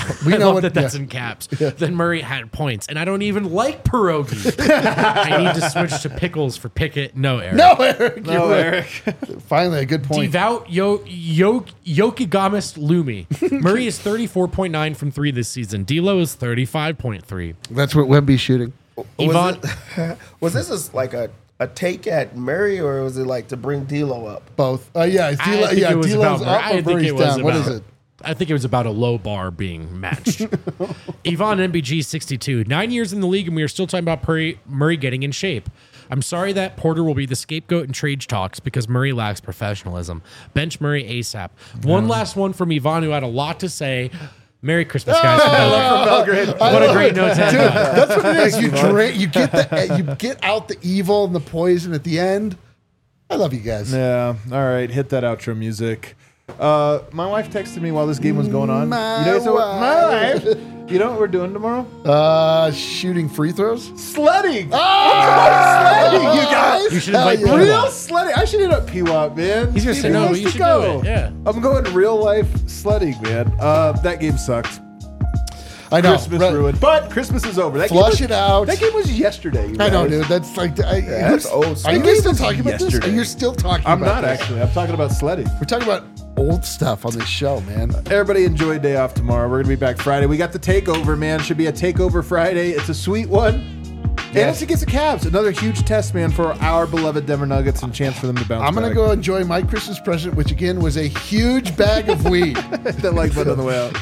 Speaker 2: We
Speaker 3: I
Speaker 2: know
Speaker 3: love
Speaker 2: what-
Speaker 3: that that's
Speaker 2: yeah.
Speaker 3: in caps. Then Murray had points, and I don't even like pierogi. I need to switch to pickles for Pickett. No, Eric.
Speaker 2: No, Eric.
Speaker 1: No,
Speaker 2: you're right.
Speaker 1: Eric.
Speaker 2: Finally, a good point.
Speaker 3: Devout Yokigamist Lumi. Murray is 34.9 from 3 this season. D'Lo is 35.3.
Speaker 2: That's what Wemby's shooting.
Speaker 3: Yvonne,
Speaker 4: Was this like a take at Murray, or was it like to bring D'Lo up?
Speaker 2: Both. Yeah,
Speaker 3: I
Speaker 2: D-Lo,
Speaker 3: think
Speaker 2: yeah,
Speaker 3: it was
Speaker 2: D-Lo's
Speaker 3: about
Speaker 2: up or Murray's down. What is it?
Speaker 3: I think it was about a low bar being matched. Yvonne NBG 62. 9 years in the league, and we are still talking about Murray getting in shape. I'm sorry that Porter will be the scapegoat in trade talks because Murray lacks professionalism. Bench Murray ASAP. One last one from Yvonne, who had a lot to say. Merry Christmas, guys. from Belgrade. What a great note to end on.
Speaker 2: That's what it is. You drink. You get out the evil and the poison at the end. I love you guys.
Speaker 1: Yeah. All right. Hit that outro music. My wife texted me while this game was going on.
Speaker 2: My
Speaker 1: You know, my
Speaker 2: wife.
Speaker 1: wife. You know what we're doing tomorrow?
Speaker 2: Shooting free throws.
Speaker 1: Sledding.
Speaker 2: Sledding,
Speaker 1: you guys.
Speaker 3: You should invite
Speaker 2: Hell yeah.
Speaker 3: P-Wop.
Speaker 1: Real sledding. I should hit up P-Wop, man.
Speaker 3: He's gonna say,
Speaker 1: He
Speaker 3: no,
Speaker 1: wants
Speaker 3: you
Speaker 1: to
Speaker 3: should
Speaker 1: go.
Speaker 3: do it. Yeah.
Speaker 1: I'm going real life sledding, man. That game sucked.
Speaker 2: I know.
Speaker 1: Christmas
Speaker 2: Right.
Speaker 1: ruined. But Christmas is over. That
Speaker 2: Flush
Speaker 1: game was,
Speaker 2: it out.
Speaker 1: That game was yesterday. You
Speaker 2: I know,
Speaker 1: guys.
Speaker 2: dude. That's like.
Speaker 4: that's old
Speaker 2: Are
Speaker 4: stuff.
Speaker 2: you guys still talking about
Speaker 1: Yesterday.
Speaker 2: this? You're still talking
Speaker 1: I'm
Speaker 2: about
Speaker 1: not
Speaker 2: this.
Speaker 1: actually. I'm talking about sledding.
Speaker 2: We're talking about old stuff on this show, man.
Speaker 1: Everybody enjoy a day off tomorrow. We're going to be back Friday. We got the takeover, man. Should be a takeover Friday. It's a sweet one. And it's against the Cavs. Another huge test, man, for our beloved Denver Nuggets and chance for them to bounce
Speaker 2: I'm going to
Speaker 1: back.
Speaker 2: go enjoy my Christmas present, which again was a huge bag of weed.
Speaker 1: Hit that like button on the way out.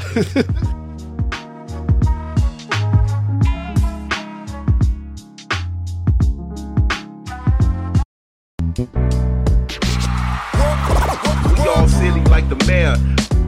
Speaker 6: We all silly like the mayor.